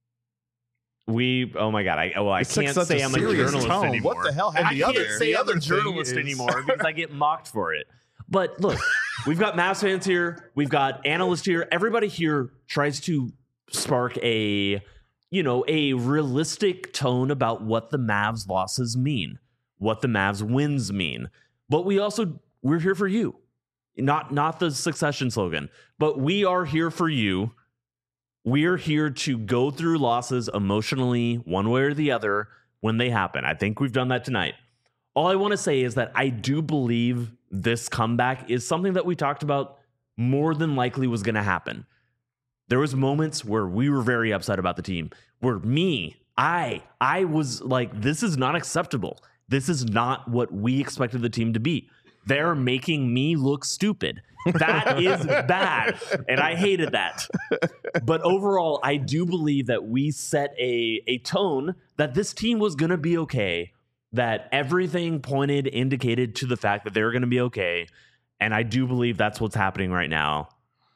Speaker 2: We oh my god, I well I
Speaker 1: It's like
Speaker 2: can't
Speaker 1: such
Speaker 2: say
Speaker 1: a
Speaker 2: I'm a
Speaker 1: serious
Speaker 2: journalist
Speaker 1: tone.
Speaker 2: anymore.
Speaker 1: What the hell
Speaker 2: I
Speaker 1: happened
Speaker 2: can't
Speaker 1: here?
Speaker 2: say
Speaker 3: The
Speaker 2: I'm
Speaker 3: other
Speaker 2: a
Speaker 3: thing
Speaker 2: journalist
Speaker 3: is-
Speaker 2: anymore because I get mocked for it. But look, we've got Mavs fans here, we've got analysts here. Everybody here tries to spark a you know a realistic tone about what the Mavs losses mean, what the Mavs wins mean. But we also we're here for you. Not not the succession slogan, but we are here for you. We're here to go through losses emotionally, one way or the other, when they happen. I think we've done that tonight. All I want to say is that I do believe this comeback is something that we talked about more than likely was going to happen. There was moments where we were very upset about the team, where me, I, I was like, this is not acceptable. This is not what we expected the team to be. They're making me look stupid. That is bad. And I hated that. But overall, I do believe that we set a, a tone that this team was going to be okay, that everything pointed, indicated to the fact that they were going to be okay. And I do believe that's what's happening right now.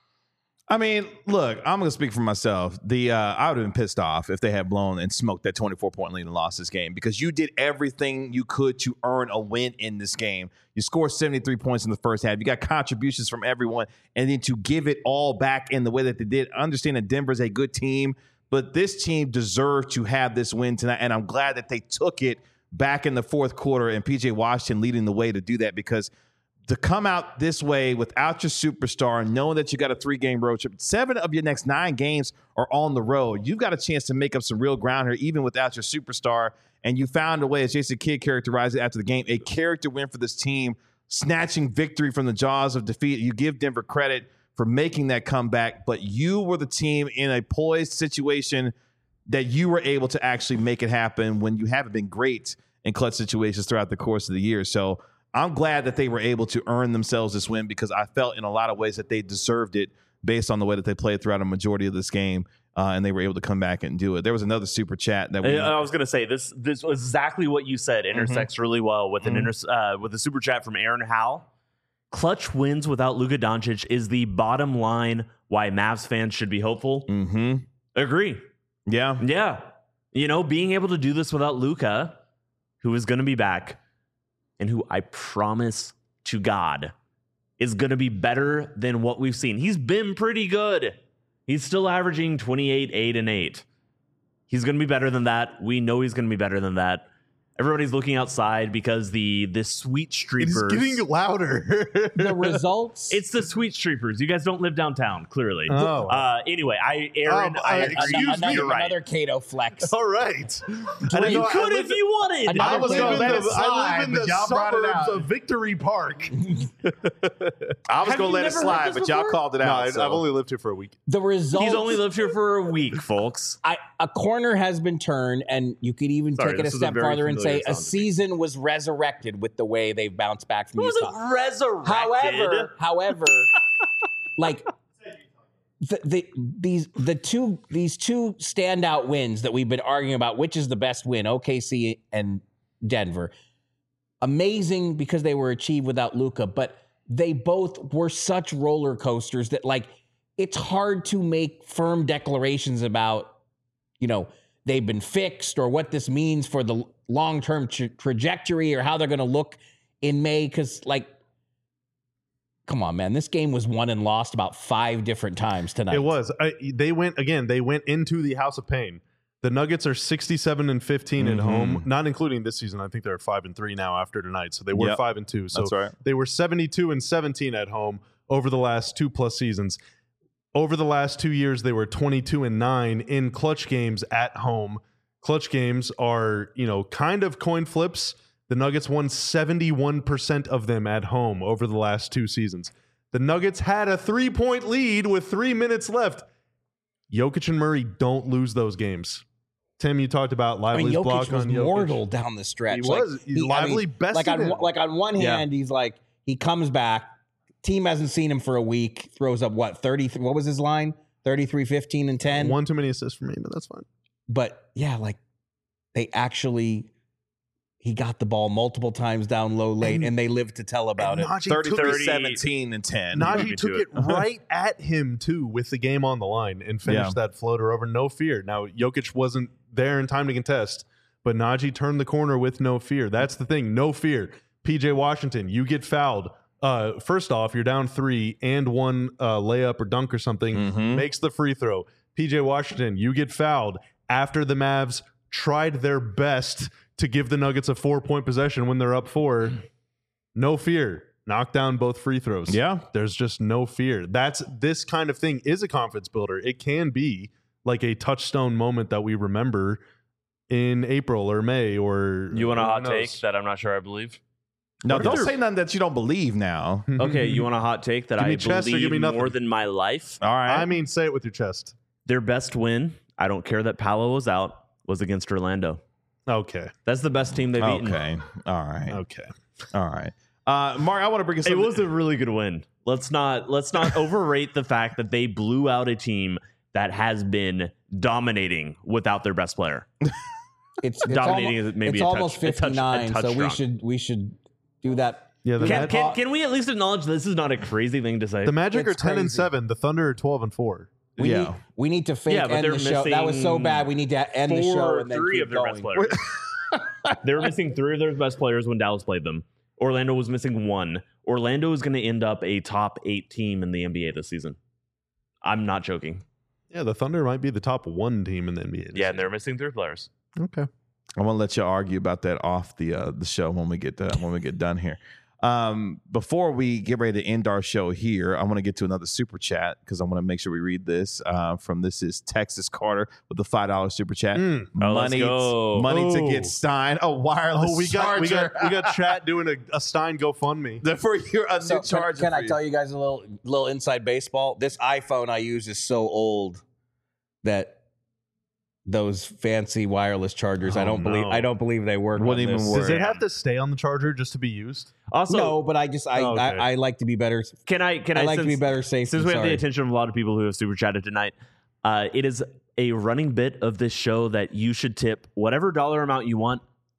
Speaker 1: I mean, look, I'm going to speak for myself. The uh, I would have been pissed off if they had blown and smoked that twenty-four point lead and lost this game because you did everything you could to earn a win in this game. You scored seventy-three points in the first half. You got contributions from everyone, and then to give it all back in the way that they did. I understand that Denver's a good team, but this team deserved to have this win tonight, and I'm glad that they took it back in the fourth quarter and P J Washington leading the way to do that because to come out this way without your superstar, knowing that you got a three-game road trip, seven of your next nine games are on the road. You've got a chance to make up some real ground here, even without your superstar. And you found a way, as Jason Kidd characterized it after the game, a character win for this team, snatching victory from the jaws of defeat. You give Denver credit for making that comeback, but you were the team in a poised situation that you were able to actually make it happen when you haven't been great in clutch situations throughout the course of the year. So I'm glad that they were able to earn themselves this win because I felt in a lot of ways that they deserved it based on the way that they played throughout a majority of this game, uh, and they were able to come back and do it. There was another super chat that we.
Speaker 2: I was going to say this. This was exactly what you said. Intersects really well with an inter, uh, with a super chat from Aaron Howell. clutch wins without Luka Doncic is the bottom line why Mavs fans should be hopeful.
Speaker 1: Mm-hmm.
Speaker 2: Agree.
Speaker 1: Yeah.
Speaker 2: Yeah. You know, being able to do this without Luka, who is going to be back, and who I promise to God is going to be better than what we've seen. He's been pretty good. He's still averaging twenty-eight, eight, and eight. He's going to be better than that. We know he's going to be better than that. Everybody's looking outside because the the sweet streepers.
Speaker 3: It's getting louder.
Speaker 5: The results.
Speaker 2: It's the sweet streepers. You guys don't live downtown, clearly.
Speaker 3: Oh.
Speaker 2: Uh, anyway, I Aaron,
Speaker 3: Um,
Speaker 2: I
Speaker 3: uh,
Speaker 2: agree.
Speaker 3: excuse
Speaker 5: another,
Speaker 3: me,
Speaker 2: You're right.
Speaker 5: another Cato flex.
Speaker 3: All right. I didn't
Speaker 2: You
Speaker 3: know- I
Speaker 2: could
Speaker 3: live
Speaker 2: if you wanted.
Speaker 5: Another
Speaker 3: I was
Speaker 5: player
Speaker 3: in
Speaker 1: let
Speaker 3: the,
Speaker 1: it slide,
Speaker 3: I live in
Speaker 1: but
Speaker 3: the
Speaker 1: y'all brought it
Speaker 3: suburbs
Speaker 1: out.
Speaker 3: of Victory Park.
Speaker 1: I was
Speaker 2: Have
Speaker 1: going to
Speaker 2: you
Speaker 1: let it
Speaker 2: never heard
Speaker 1: slide,
Speaker 2: this
Speaker 1: but y'all
Speaker 2: before?
Speaker 1: called it
Speaker 3: No,
Speaker 1: out.
Speaker 3: I,
Speaker 1: so.
Speaker 3: I've only lived here for a week.
Speaker 5: The results.
Speaker 2: He's only lived here for a week, folks.
Speaker 5: I, a corner has been turned, and you could even
Speaker 2: Sorry,
Speaker 5: take it a
Speaker 2: this is a
Speaker 5: step
Speaker 2: very
Speaker 5: farther and say
Speaker 2: familiar
Speaker 5: a
Speaker 2: sound to me.
Speaker 5: season was resurrected with the way they've bounced back from
Speaker 2: It
Speaker 5: Utah.
Speaker 2: wasn't resurrected.
Speaker 5: However, however, like the, the these the two these two standout wins that we've been arguing about, which is the best win, O K C and Denver. Amazing because they were achieved without Luka, but they both were such roller coasters that like it's hard to make firm declarations about, you know, they've been fixed or what this means for the long-term tra- trajectory or how they're going to look in May. Because, like, come on, man, this game was won and lost about five different times tonight.
Speaker 3: It was. I, they went again. They went into the House of Pain. The Nuggets are sixty-seven and fifteen
Speaker 1: Mm-hmm.
Speaker 3: at home, not including this season. I think they're five and three now after tonight. So they were
Speaker 1: Yep.
Speaker 3: five and two. So
Speaker 1: That's right.
Speaker 3: they were seventy-two and seventeen at home over the last two plus seasons. Over the last two years, they were twenty-two and nine in clutch games at home. Clutch games are, you know, kind of coin flips. The Nuggets won seventy-one percent of them at home over the last two seasons. The Nuggets had a three-point lead with three minutes left. Jokic and Murray don't lose those games. Tim, you talked about
Speaker 5: I
Speaker 3: Lively's
Speaker 5: mean, Jokic
Speaker 3: block
Speaker 5: was
Speaker 3: on Jokic.
Speaker 5: mortal down the stretch.
Speaker 3: He
Speaker 5: Like,
Speaker 3: was. Lively bested
Speaker 5: like on
Speaker 3: him.
Speaker 5: one- like on one
Speaker 1: Yeah.
Speaker 5: hand, he's like he comes back. Team hasn't seen him for a week. Throws up what thirty? What was his line? thirty-three, fifteen, and ten.
Speaker 3: One too many assists for me, but that's fine.
Speaker 5: But yeah, like they actually he got the ball multiple times down low late, and,
Speaker 3: And-
Speaker 5: they lived to tell about it.
Speaker 3: Najee
Speaker 1: thirty,
Speaker 3: took
Speaker 1: thirty,
Speaker 3: it-
Speaker 1: seventeen, and ten.
Speaker 3: Najee
Speaker 1: Beat
Speaker 3: took
Speaker 1: me
Speaker 3: it
Speaker 1: to
Speaker 3: right at him too with the game on the line and finished
Speaker 1: Yeah.
Speaker 3: that floater over. No fear. Now Jokic wasn't there in time to contest, but Najee turned the corner with no fear. That's the thing. No fear. P J Washington, you get fouled. Uh, first off, you're down three and one uh, layup or dunk or something,
Speaker 1: Mhm.
Speaker 3: makes the free throw. P J Washington, you get fouled after the Mavs tried their best to give the Nuggets a four point possession when they're up four. No fear. Knock down both free throws.
Speaker 1: Yeah.
Speaker 3: There's just no fear. That's this kind of thing is a confidence builder. It can be like a touchstone moment that we remember in April or May or
Speaker 2: You want a
Speaker 3: who
Speaker 2: hot
Speaker 3: knows?
Speaker 2: take that I'm not sure I believe?
Speaker 1: No,
Speaker 3: What if
Speaker 1: don't
Speaker 3: they're-
Speaker 1: say nothing that you don't believe now.
Speaker 2: Okay, you want a hot take that
Speaker 3: Give me
Speaker 2: I
Speaker 3: chest or
Speaker 2: believe
Speaker 3: give me nothing.
Speaker 2: more than my life?
Speaker 1: All right.
Speaker 3: I mean, say it with your chest.
Speaker 2: Their best win, I don't care that Paolo was out, was against Orlando.
Speaker 3: Okay.
Speaker 2: That's the best team they've beaten.
Speaker 1: okay. All right.
Speaker 3: Okay.
Speaker 1: All right. Uh, Mark, I want to bring us
Speaker 2: It
Speaker 1: something.
Speaker 2: was a really good win. Let's not let's not overrate the fact that they blew out a team that has been dominating without their best player.
Speaker 5: It's, it's
Speaker 2: Dominating
Speaker 5: almo-
Speaker 2: is maybe
Speaker 5: it's
Speaker 2: a touch-
Speaker 5: almost
Speaker 2: a touch- a
Speaker 5: fifty-nine,
Speaker 2: touch
Speaker 5: so we
Speaker 2: strong.
Speaker 5: should we should do that.
Speaker 3: Yeah. The,
Speaker 2: Can,
Speaker 3: Mag-
Speaker 2: can, can we at least acknowledge this is not a crazy thing to say?
Speaker 3: the Magic are
Speaker 5: It's
Speaker 3: ten and
Speaker 5: crazy.
Speaker 3: seven. The Thunder are twelve and four.
Speaker 5: We
Speaker 1: Yeah.
Speaker 5: need we need to fake
Speaker 2: Yeah, but
Speaker 5: end
Speaker 2: they're
Speaker 5: the show. That was so
Speaker 2: missing
Speaker 5: bad. We need to end the
Speaker 2: Four
Speaker 5: show
Speaker 2: or
Speaker 5: and then
Speaker 2: three
Speaker 5: keep
Speaker 2: of their
Speaker 5: going.
Speaker 2: best players. They were missing three of their best players when Dallas played them. Orlando was missing one. Orlando is going to end up a top eight team in the N B A this season. I'm not joking.
Speaker 3: Yeah, the Thunder might be the top one team in the N B A. this
Speaker 2: Yeah, and
Speaker 3: year.
Speaker 2: they're missing three players.
Speaker 3: Okay.
Speaker 1: I want to let you argue about that off the uh, the show when we get uh, when we get done here. Um, before we get ready to end our show here, I want to get to another super chat because I want to make sure we read this. Uh, from this is Texas Carter with the five dollar super chat.
Speaker 3: Mm.
Speaker 2: Oh, let's
Speaker 1: money,
Speaker 2: go.
Speaker 1: money to
Speaker 3: Oh.
Speaker 1: get Stein a wireless
Speaker 3: Oh, we got we
Speaker 1: charger.
Speaker 3: got we got chat doing a, a Stein GoFundMe.
Speaker 1: for your a
Speaker 5: So
Speaker 1: new
Speaker 5: can,
Speaker 1: charger.
Speaker 5: can
Speaker 1: for
Speaker 5: I
Speaker 1: you.
Speaker 5: tell you guys a little little inside baseball? This iPhone I use is so old that those fancy wireless chargers, I
Speaker 3: Oh,
Speaker 5: don't believe
Speaker 3: no.
Speaker 5: I don't believe they work.
Speaker 1: Wouldn't
Speaker 5: on
Speaker 1: even
Speaker 5: this.
Speaker 1: work.
Speaker 3: Does it have to stay on the charger just to be used?
Speaker 2: Also,
Speaker 5: No, but I just I,
Speaker 3: Oh, okay.
Speaker 5: I I like to be better.
Speaker 2: can I can
Speaker 5: I,
Speaker 2: I,
Speaker 5: like to be
Speaker 2: since-
Speaker 5: better safe.
Speaker 2: Since
Speaker 5: than
Speaker 2: we have the
Speaker 5: sorry.
Speaker 2: attention of a lot of people who have super chatted tonight, uh, it is a running bit of this show that you should tip whatever dollar amount you want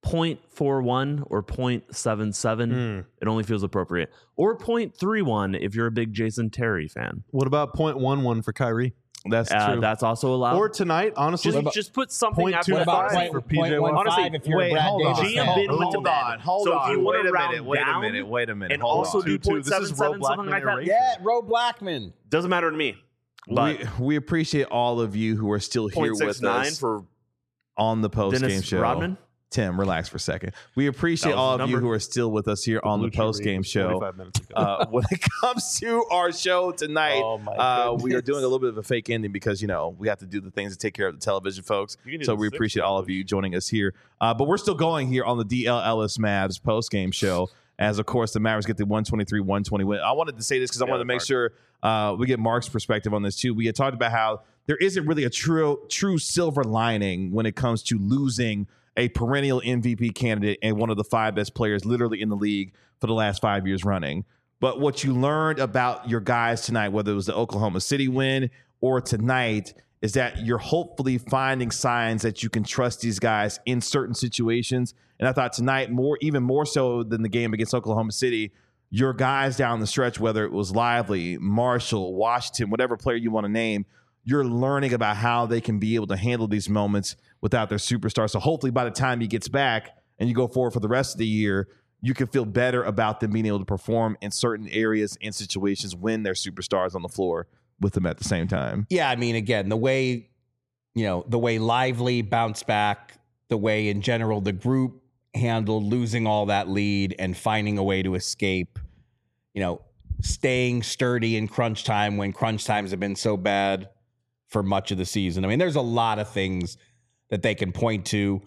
Speaker 2: point four one or point seven seven,
Speaker 3: Mm.
Speaker 2: it only feels appropriate. Or point three one if you're a big Jason Terry fan.
Speaker 3: What about point one one for Kyrie?
Speaker 1: That's
Speaker 2: Uh,
Speaker 1: true.
Speaker 2: that's also allowed.
Speaker 3: Or tonight, honestly,
Speaker 2: just, just put something
Speaker 3: point
Speaker 2: after
Speaker 3: two
Speaker 5: What
Speaker 2: that.
Speaker 5: about
Speaker 3: five
Speaker 5: point,
Speaker 3: for P J
Speaker 5: point one
Speaker 2: Honestly,
Speaker 5: five if you're
Speaker 1: wait,
Speaker 5: a Brad
Speaker 1: hold on.
Speaker 5: Davis
Speaker 2: G M
Speaker 5: fan?
Speaker 2: Ben went to
Speaker 1: hold
Speaker 2: bed.
Speaker 1: on, hold
Speaker 2: So if
Speaker 1: on.
Speaker 2: you wanna
Speaker 1: wait a
Speaker 2: round
Speaker 1: minute, wait a
Speaker 2: down
Speaker 1: minute, wait a minute.
Speaker 2: and
Speaker 1: hold
Speaker 2: also
Speaker 1: on.
Speaker 2: do
Speaker 3: two, two.
Speaker 2: point
Speaker 3: This is
Speaker 2: seven
Speaker 3: Ro
Speaker 2: seven, something like that.
Speaker 3: Blackman
Speaker 5: Yeah, Ro Blackman.
Speaker 2: Doesn't matter to me. But
Speaker 1: we, we appreciate all of you who are still here
Speaker 2: point
Speaker 1: with
Speaker 2: six nine
Speaker 1: us
Speaker 2: for
Speaker 1: on the post game
Speaker 2: Dennis
Speaker 1: show.
Speaker 2: Rodman.
Speaker 1: Tim, relax for a second. We appreciate
Speaker 2: That was
Speaker 1: all
Speaker 2: the
Speaker 1: of you
Speaker 2: number.
Speaker 1: who are still with us here on the
Speaker 3: Blue Chew
Speaker 1: post
Speaker 3: read
Speaker 1: game
Speaker 3: was
Speaker 1: show.
Speaker 3: forty-five minutes ago.
Speaker 1: Uh, when it comes to our show tonight,
Speaker 5: Oh, my
Speaker 1: uh, we are
Speaker 5: goodness.
Speaker 1: doing a little bit of a fake ending because you know we have to do the things to take care of the television folks.
Speaker 2: You can do
Speaker 1: So
Speaker 2: the
Speaker 1: we
Speaker 2: six
Speaker 1: appreciate all of you joining us here. Uh, but we're still going here on the D L Ellis Mavs post game show. As of course the Mavericks get the one twenty-three one twenty win. I wanted to say this because I wanted to make
Speaker 2: Mark.
Speaker 1: sure uh, we get Mark's perspective on this too. We had talked about how there isn't really a true true silver lining when it comes to losing a perennial M V P candidate and one of the five best players literally in the league for the last five years running. But what you learned about your guys tonight, whether it was the Oklahoma City win or tonight, is that you're hopefully finding signs that you can trust these guys in certain situations. And I thought tonight, more even more so than the game against Oklahoma City, your guys down the stretch, whether it was Lively, Marshall, Washington, whatever player you want to name, you're learning about how they can be able to handle these moments without their superstar. So hopefully by the time he gets back and you go forward for the rest of the year, you can feel better about them being able to perform in certain areas and situations when they're superstars on the floor with them at the same time.
Speaker 5: Yeah, I mean, again, the way, you know, the way Lively bounced back, the way in general the group handled losing all that lead and finding a way to escape, you know, staying sturdy in crunch time when crunch times have been so bad for much of the season. I mean, there's a lot of things that they can point to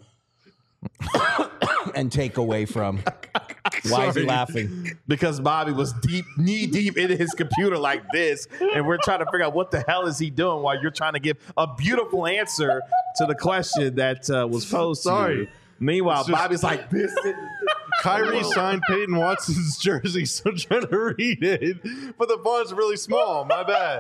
Speaker 5: and take away from. Why is he
Speaker 1: Sorry.
Speaker 5: laughing?
Speaker 1: Because Bobby was deep, knee deep into his computer like this, and we're trying to figure out what the hell is he doing while you're trying to give a beautiful answer to the question that uh, was posed to
Speaker 3: Sorry.
Speaker 1: you. Meanwhile,
Speaker 3: It's just-
Speaker 1: Bobby's like this.
Speaker 3: Kyrie signed Peyton Watson's jersey, so I'm trying to read it, but the font's really small. My bad.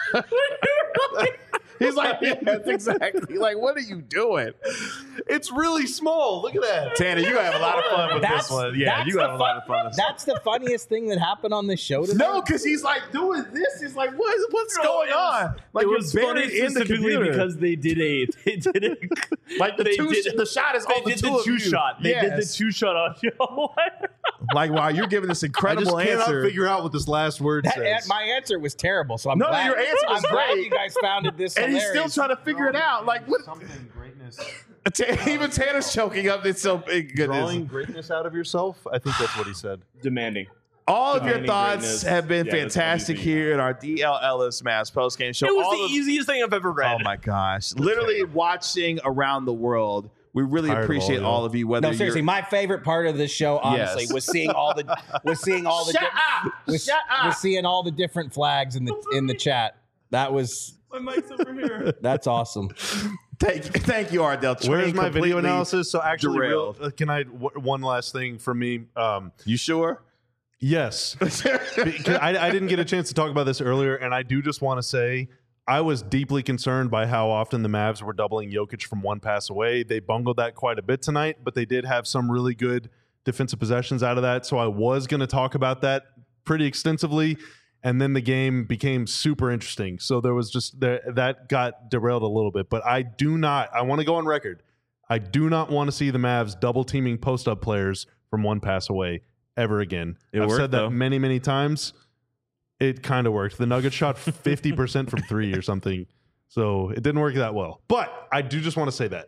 Speaker 1: He's like, yes, exactly. Like, what are you doing?
Speaker 3: It's really small. Look at that.
Speaker 1: Tanner, you gonna have a lot of fun with
Speaker 5: That's-
Speaker 1: this one. Yeah,
Speaker 5: that's
Speaker 1: you
Speaker 5: the
Speaker 1: gonna have a lot of fun with this.
Speaker 5: That's the funniest thing that happened on this show today.
Speaker 1: No, because he's like doing this. He's like, what? What's
Speaker 2: No,
Speaker 1: going
Speaker 2: it was-
Speaker 1: on? Like
Speaker 2: it
Speaker 1: you're
Speaker 2: was funny
Speaker 1: buried in the
Speaker 2: specifically
Speaker 1: computer.
Speaker 2: because they did a they did a
Speaker 1: like the
Speaker 2: they
Speaker 1: two,
Speaker 2: did-
Speaker 1: the shot is
Speaker 2: they
Speaker 1: on the
Speaker 2: did
Speaker 1: two
Speaker 2: the
Speaker 1: of
Speaker 2: two
Speaker 1: you.
Speaker 2: shot. They did the
Speaker 1: Yes.
Speaker 2: two shot on you.
Speaker 1: Like, wow, you're giving this
Speaker 3: I
Speaker 1: incredible
Speaker 3: just cannot
Speaker 1: answer.
Speaker 3: figure out what this last word
Speaker 5: That,
Speaker 3: says.
Speaker 5: my answer was terrible, so I'm
Speaker 1: No,
Speaker 5: glad,
Speaker 1: your answer was
Speaker 5: I'm glad
Speaker 1: great.
Speaker 5: you guys found it this
Speaker 1: and he's still
Speaker 5: hilarious.
Speaker 1: trying to figure it out. Like, what?
Speaker 3: Something greatness.
Speaker 1: Even Tanner's choking up. It's so big. Goodness.
Speaker 3: Drawing greatness out of yourself. I think that's what he said.
Speaker 2: Demanding.
Speaker 1: All of your
Speaker 2: Demanding
Speaker 1: thoughts
Speaker 2: greatness.
Speaker 1: have been
Speaker 2: Yeah, that's
Speaker 1: fantastic
Speaker 2: what you
Speaker 1: here in our D L Ellis Mavs postgame show.
Speaker 2: It was
Speaker 1: All
Speaker 2: the
Speaker 1: of-
Speaker 2: easiest thing I've ever read.
Speaker 1: Oh my gosh! Literally watching around the world. We really
Speaker 3: Tired of
Speaker 1: appreciate
Speaker 3: all
Speaker 1: all,
Speaker 3: y'all.
Speaker 1: of you. Whether
Speaker 5: No, seriously,
Speaker 1: you're,
Speaker 5: my favorite part of this show, honestly,
Speaker 1: Yes.
Speaker 5: was seeing all the was seeing all the
Speaker 1: Shut
Speaker 5: di-
Speaker 1: up!
Speaker 5: was,
Speaker 1: Shut up!
Speaker 5: was seeing all the different flags in the in the chat. That was
Speaker 2: My mic's over here.
Speaker 5: that's awesome.
Speaker 1: thank, thank you, Ardell.
Speaker 3: Where's
Speaker 1: Train
Speaker 3: my video
Speaker 1: completely
Speaker 3: analysis? So actually, real,
Speaker 1: derailed.
Speaker 3: uh, can I w- one last thing from me? Um,
Speaker 1: You sure?
Speaker 3: yes, Because I, I didn't get a chance to talk about this earlier, and I do just want to say I was deeply concerned by how often the Mavs were doubling Jokic from one pass away. They bungled that quite a bit tonight, but they did have some really good defensive possessions out of that. So I was going to talk about that pretty extensively, and then the game became super interesting. So there was just there, that got derailed a little bit. But I do not. I want to go on record. I do not want to see the Mavs double teaming post up players from one pass away ever again.
Speaker 2: It
Speaker 3: I've
Speaker 2: worked,
Speaker 3: said that
Speaker 2: though.
Speaker 3: many, many times. It kind of worked. The Nuggets shot fifty percent from three or something. So it didn't work that well. But I do just want to say that.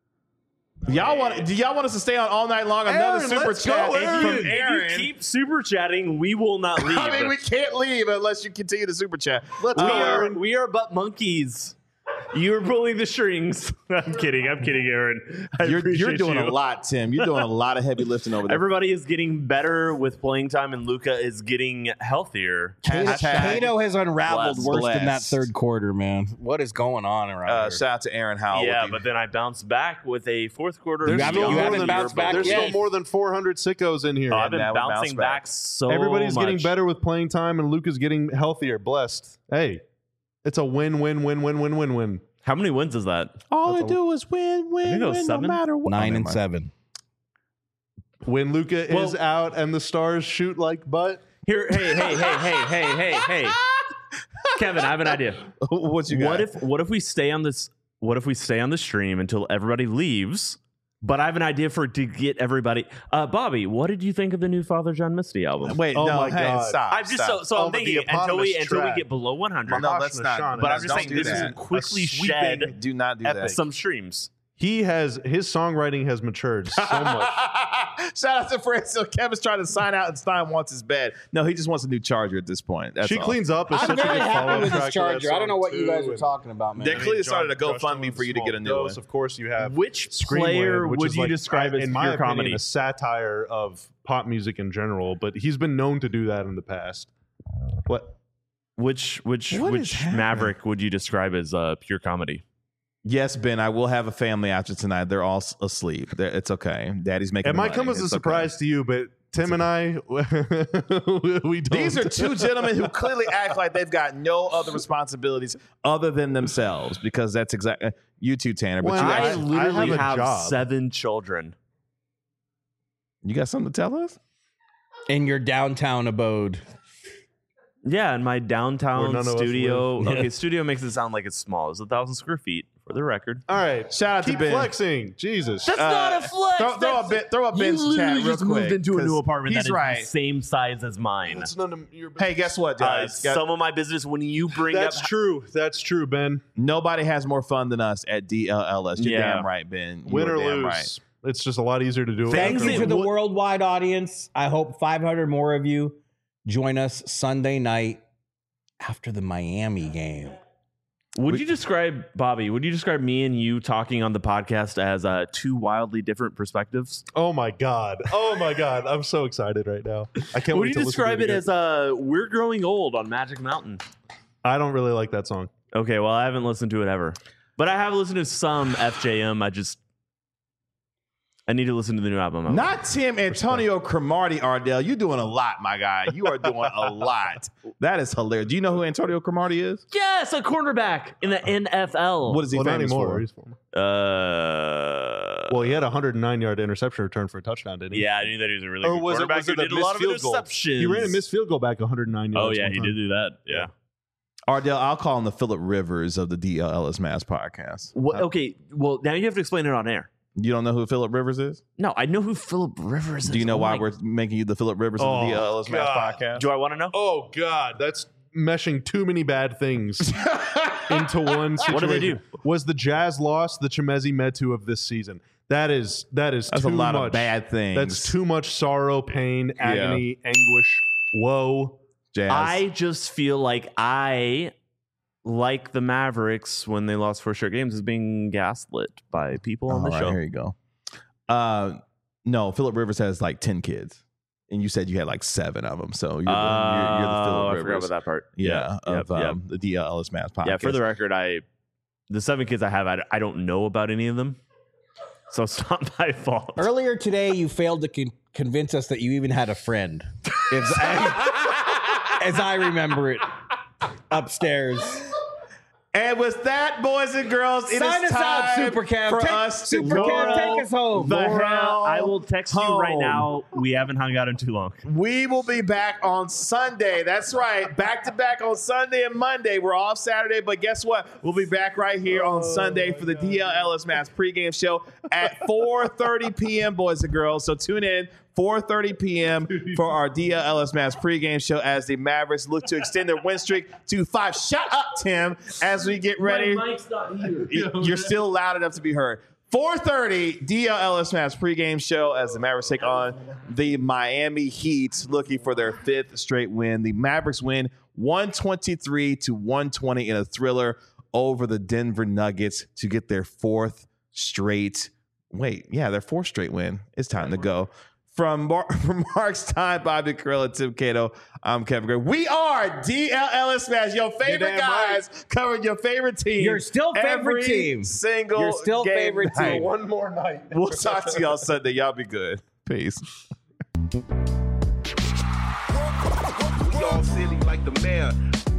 Speaker 1: Y'all want? Do y'all want us to stay on all night long? Another
Speaker 3: Aaron,
Speaker 1: super
Speaker 3: let's go,
Speaker 1: chat
Speaker 3: Aaron.
Speaker 1: from
Speaker 2: If
Speaker 1: Aaron.
Speaker 2: you keep super chatting, we will not leave.
Speaker 1: I mean, we can't leave unless you continue to super chat. Let's
Speaker 2: we
Speaker 1: go,
Speaker 2: are
Speaker 1: Aaron.
Speaker 2: we are but monkeys. You're pulling the strings. I'm kidding. I'm kidding, Aaron. I
Speaker 1: You're, you're
Speaker 2: appreciate
Speaker 1: doing
Speaker 2: you.
Speaker 1: a lot, Tim. You're doing a lot of heavy lifting over there.
Speaker 2: Everybody is getting better with playing time, and Luka is getting healthier.
Speaker 1: Hashtag
Speaker 5: Kato has unraveled
Speaker 1: blessed.
Speaker 5: worse than that
Speaker 1: Blessed.
Speaker 5: third quarter, man. What is going on around
Speaker 1: Uh,
Speaker 5: here?
Speaker 1: shout out to Aaron Howell.
Speaker 2: Yeah,
Speaker 1: with the-
Speaker 2: but then I bounced back with a fourth quarter.
Speaker 5: You
Speaker 3: There's
Speaker 5: haven't-
Speaker 3: still
Speaker 5: you
Speaker 3: more
Speaker 5: haven't
Speaker 3: than-
Speaker 5: bounced back
Speaker 3: There's
Speaker 5: yet.
Speaker 3: still more than four hundred sickos in here.
Speaker 2: Oh, I've been
Speaker 1: now we
Speaker 2: bouncing
Speaker 1: bounce
Speaker 2: back.
Speaker 1: back.
Speaker 2: so
Speaker 3: Everybody's getting
Speaker 2: much.
Speaker 3: better with playing time, and Luka's getting healthier. Blessed. Hey, it's a win, win, win, win, win, win, win.
Speaker 2: How many wins is that?
Speaker 1: all
Speaker 3: That's
Speaker 1: they
Speaker 3: a-
Speaker 1: do is win,
Speaker 2: I think
Speaker 1: win,
Speaker 2: it was
Speaker 1: win,
Speaker 2: seven.
Speaker 1: no matter what.
Speaker 5: Nine
Speaker 1: Oh,
Speaker 5: and
Speaker 1: never mind.
Speaker 5: seven.
Speaker 3: when Luka
Speaker 2: Well-
Speaker 3: is out and the stars shoot like butt.
Speaker 2: Here, hey, hey, hey, hey, hey, hey, hey. Kevin, I have an idea.
Speaker 1: What you got?
Speaker 2: What if what if we stay on this what if we stay on the stream until everybody leaves? But I have an idea for to get everybody. Uh, Bobby, what did you think of the new Father John Misty album?
Speaker 1: Wait,
Speaker 3: Oh
Speaker 1: no,
Speaker 3: my
Speaker 1: hey,
Speaker 3: God.
Speaker 1: stop.
Speaker 2: I'm just
Speaker 1: stop.
Speaker 2: so so
Speaker 3: Oh,
Speaker 2: I'm
Speaker 3: but the
Speaker 2: thinking until we
Speaker 3: eponymous
Speaker 2: until we
Speaker 3: track.
Speaker 2: get below one hundred.
Speaker 1: No,
Speaker 3: Mahesh
Speaker 1: let's not.
Speaker 3: Nashan,
Speaker 2: But I'm
Speaker 3: and
Speaker 2: just saying
Speaker 1: don't
Speaker 2: this
Speaker 1: do
Speaker 2: is
Speaker 1: that.
Speaker 2: quickly
Speaker 3: A sweeping-
Speaker 2: shed
Speaker 1: Do not do that.
Speaker 2: some streams.
Speaker 3: He has his songwriting has matured so much.
Speaker 1: Shout out to Fred. So Kevin's trying to sign out, and Stein wants his bed. No, he just wants a new charger at this point. That's
Speaker 3: She
Speaker 1: all.
Speaker 3: cleans up. It's
Speaker 5: I'm
Speaker 3: such a
Speaker 5: very
Speaker 3: good
Speaker 5: happy
Speaker 3: follow-up
Speaker 5: with
Speaker 3: track
Speaker 5: this
Speaker 3: to that
Speaker 5: charger. I don't know
Speaker 3: song,
Speaker 5: what you guys
Speaker 3: too,
Speaker 5: are
Speaker 3: and-
Speaker 5: talking about, man.
Speaker 1: They clearly
Speaker 3: John
Speaker 1: started a
Speaker 3: crushed
Speaker 1: GoFundMe
Speaker 3: on with
Speaker 1: for you to
Speaker 3: Small
Speaker 1: get a new
Speaker 3: Dose.
Speaker 1: one.
Speaker 3: Of course, you have
Speaker 2: Which
Speaker 3: Screamland,
Speaker 2: player
Speaker 3: which
Speaker 2: would
Speaker 3: is
Speaker 2: you
Speaker 3: like,
Speaker 2: describe as
Speaker 3: in
Speaker 2: pure
Speaker 3: my opinion,
Speaker 2: comedy?
Speaker 3: a satire of pop music in general, but he's been known to do that in the past. What?
Speaker 2: Which which
Speaker 1: What is
Speaker 2: which
Speaker 1: happening?
Speaker 2: Maverick would you describe as uh, pure comedy?
Speaker 1: Yes, Ben, I will have a family after tonight. They're all s- asleep. They're, it's okay. Daddy's making
Speaker 3: It
Speaker 1: the
Speaker 3: might
Speaker 1: money.
Speaker 3: come as a
Speaker 1: It's
Speaker 3: surprise to you, but Tim and I, we don't.
Speaker 1: These are two gentlemen who clearly act like they've got no other responsibilities other than themselves, because that's exactly you too, Tanner. But
Speaker 3: Well,
Speaker 1: you,
Speaker 2: I,
Speaker 3: I-
Speaker 1: got,
Speaker 2: literally
Speaker 3: have a
Speaker 2: have,
Speaker 3: job.
Speaker 2: seven children.
Speaker 1: you got something to tell us?
Speaker 5: In your downtown abode.
Speaker 2: Yeah, in my
Speaker 3: Where
Speaker 2: downtown
Speaker 3: none of us
Speaker 2: studio.
Speaker 3: live.
Speaker 2: Okay, studio makes it sound like it's small. It's a thousand square feet for the record.
Speaker 3: All right.
Speaker 1: Shout out
Speaker 3: Keep
Speaker 1: to Ben.
Speaker 3: flexing. Jesus.
Speaker 2: That's
Speaker 1: Uh,
Speaker 2: not a flex.
Speaker 1: Throw, throw a bit. Throw a Ben's
Speaker 2: you
Speaker 1: chat
Speaker 2: literally
Speaker 1: real
Speaker 2: just
Speaker 1: quick.
Speaker 2: moved into a
Speaker 1: 'cause
Speaker 2: new apartment
Speaker 1: He's
Speaker 2: that is
Speaker 1: right.
Speaker 2: the same size as mine.
Speaker 3: That's none of your business.
Speaker 1: Hey, guess what,
Speaker 2: Uh,
Speaker 1: guys? Got-
Speaker 2: some of my business when you bring
Speaker 3: That's
Speaker 2: up
Speaker 3: true. That's true, Ben.
Speaker 1: Nobody has more fun than us at D L L S. You're
Speaker 2: Yeah.
Speaker 1: damn right, Ben. You
Speaker 3: Win
Speaker 1: are
Speaker 3: or
Speaker 1: damn
Speaker 3: lose.
Speaker 1: right.
Speaker 3: It's just a lot easier to do. it.
Speaker 2: Things
Speaker 5: Thank you
Speaker 2: that
Speaker 5: to the
Speaker 2: would-
Speaker 5: worldwide audience. I hope five hundred more of you join us Sunday night after the Miami game.
Speaker 2: Would you describe Bobby? Would you describe me and you talking on the podcast as uh, two wildly different perspectives?
Speaker 3: Oh my god. Oh my god. I'm so excited right now. I can't
Speaker 2: Would
Speaker 3: wait
Speaker 2: you
Speaker 3: to listen
Speaker 2: describe
Speaker 3: to
Speaker 2: it
Speaker 3: again.
Speaker 2: as uh, "We're Growing Old" on Magic Mountain?
Speaker 3: I don't really like that song.
Speaker 2: Okay, well I haven't listened to it ever, but I have listened to some F J M. I just I need to listen to the new album.
Speaker 1: Not Tim Antonio Cromartie, Ardell. You're doing a lot, my guy. You are doing a lot. That is hilarious. Do you know who Antonio Cromartie is?
Speaker 2: Yes, a cornerback in the N F L.
Speaker 1: What is he
Speaker 3: Well, not
Speaker 1: famous
Speaker 3: anymore.
Speaker 1: for?
Speaker 3: He's former.
Speaker 2: Uh,
Speaker 3: Well, he had a one hundred nine yard interception return for a touchdown, didn't he?
Speaker 2: yeah, I knew that he was a really
Speaker 3: Or
Speaker 2: good
Speaker 3: was it,
Speaker 2: quarterback
Speaker 3: was it
Speaker 2: who
Speaker 3: a
Speaker 2: did a lot of
Speaker 3: missed field goal?
Speaker 2: interceptions.
Speaker 3: He ran a missed field goal back one hundred nine yards.
Speaker 2: Oh yeah,
Speaker 3: one
Speaker 2: he
Speaker 3: time.
Speaker 2: did do that. Yeah.
Speaker 1: Ardell, I'll call him the Philip Rivers of the D L L S Mass podcast.
Speaker 2: What, okay, well now you have to explain it on air.
Speaker 1: You don't know who Philip Rivers is?
Speaker 2: No, I know who Philip Rivers is.
Speaker 1: Do you know
Speaker 2: Oh
Speaker 1: why
Speaker 2: my-
Speaker 1: we're making you the Philip Rivers of
Speaker 3: Oh,
Speaker 1: the D L L S Mass
Speaker 3: God.
Speaker 1: podcast?
Speaker 2: Do I want to know?
Speaker 3: Oh god, that's meshing too many bad things into one situation.
Speaker 2: What do they do?
Speaker 3: Was the Jazz loss the Chemezi Metu of this season? That is that is
Speaker 1: That's
Speaker 3: too
Speaker 1: a lot
Speaker 3: much.
Speaker 1: of bad things.
Speaker 3: That's too much sorrow, pain, agony, anguish, woe.
Speaker 1: Jazz.
Speaker 2: I just feel like I, like the Mavericks when they lost four straight games, is being gaslit by people on
Speaker 1: All
Speaker 2: the
Speaker 1: right,
Speaker 2: show.
Speaker 1: here you go. Uh, no, Philip Rivers has like ten kids, and you said you had like seven of them. So you're, the, you're, you're the
Speaker 2: Oh,
Speaker 1: Philip
Speaker 2: I
Speaker 1: Rivers.
Speaker 2: forgot about that part.
Speaker 1: Yeah, of
Speaker 2: yep, yep.
Speaker 1: um, the D L L S Mass podcast.
Speaker 2: Yeah, for the record, I the seven kids I have, I, I don't know about any of them, so it's not my fault.
Speaker 5: Earlier today, you failed to con- convince us that you even had a friend. As I, as I remember it, upstairs.
Speaker 1: And with that, boys and girls, it is
Speaker 5: Sign us
Speaker 1: time
Speaker 5: out, Super Cam.
Speaker 1: for
Speaker 5: Take-
Speaker 1: us
Speaker 5: Super
Speaker 1: to
Speaker 5: Cam,
Speaker 1: go
Speaker 5: take us home.
Speaker 1: the
Speaker 2: Laura,
Speaker 1: hell
Speaker 2: I will text you right
Speaker 1: home.
Speaker 2: now. We haven't hung out in too long.
Speaker 1: We will be back on Sunday. That's right. Back to back on Sunday and Monday. We're off Saturday, but guess what? We'll be back right here on Sunday for the D L L S Mass pregame show at four thirty p.m., boys and girls. So tune in. four thirty p.m. for our D L L S Mass pregame show as the Mavericks look to extend their win streak to five. Shut up, Tim, as we get ready.
Speaker 2: mic's not here.
Speaker 1: You're still loud enough to be heard. four thirty D L L S Mass pregame show as the Mavericks take on the Miami Heat, looking for their fifth straight win. The Mavericks win one twenty-three to one twenty in a thriller over the Denver Nuggets to get their fourth straight. Wait, yeah, their fourth straight win. It's time to go. From, Mar- from Mark Stein, Bobby Carell, and Tim Cato, I'm Kevin Gray. We are D L L S Smash, your favorite
Speaker 3: damn
Speaker 1: guys,
Speaker 3: right.
Speaker 1: covering your favorite team.
Speaker 5: Your still favorite
Speaker 1: every
Speaker 5: team.
Speaker 1: Single
Speaker 5: Your still
Speaker 1: game
Speaker 5: favorite
Speaker 1: night.
Speaker 5: team.
Speaker 3: One more night.
Speaker 1: We'll talk to y'all Sunday. Y'all be good. Peace.
Speaker 6: We all silly like the mayor.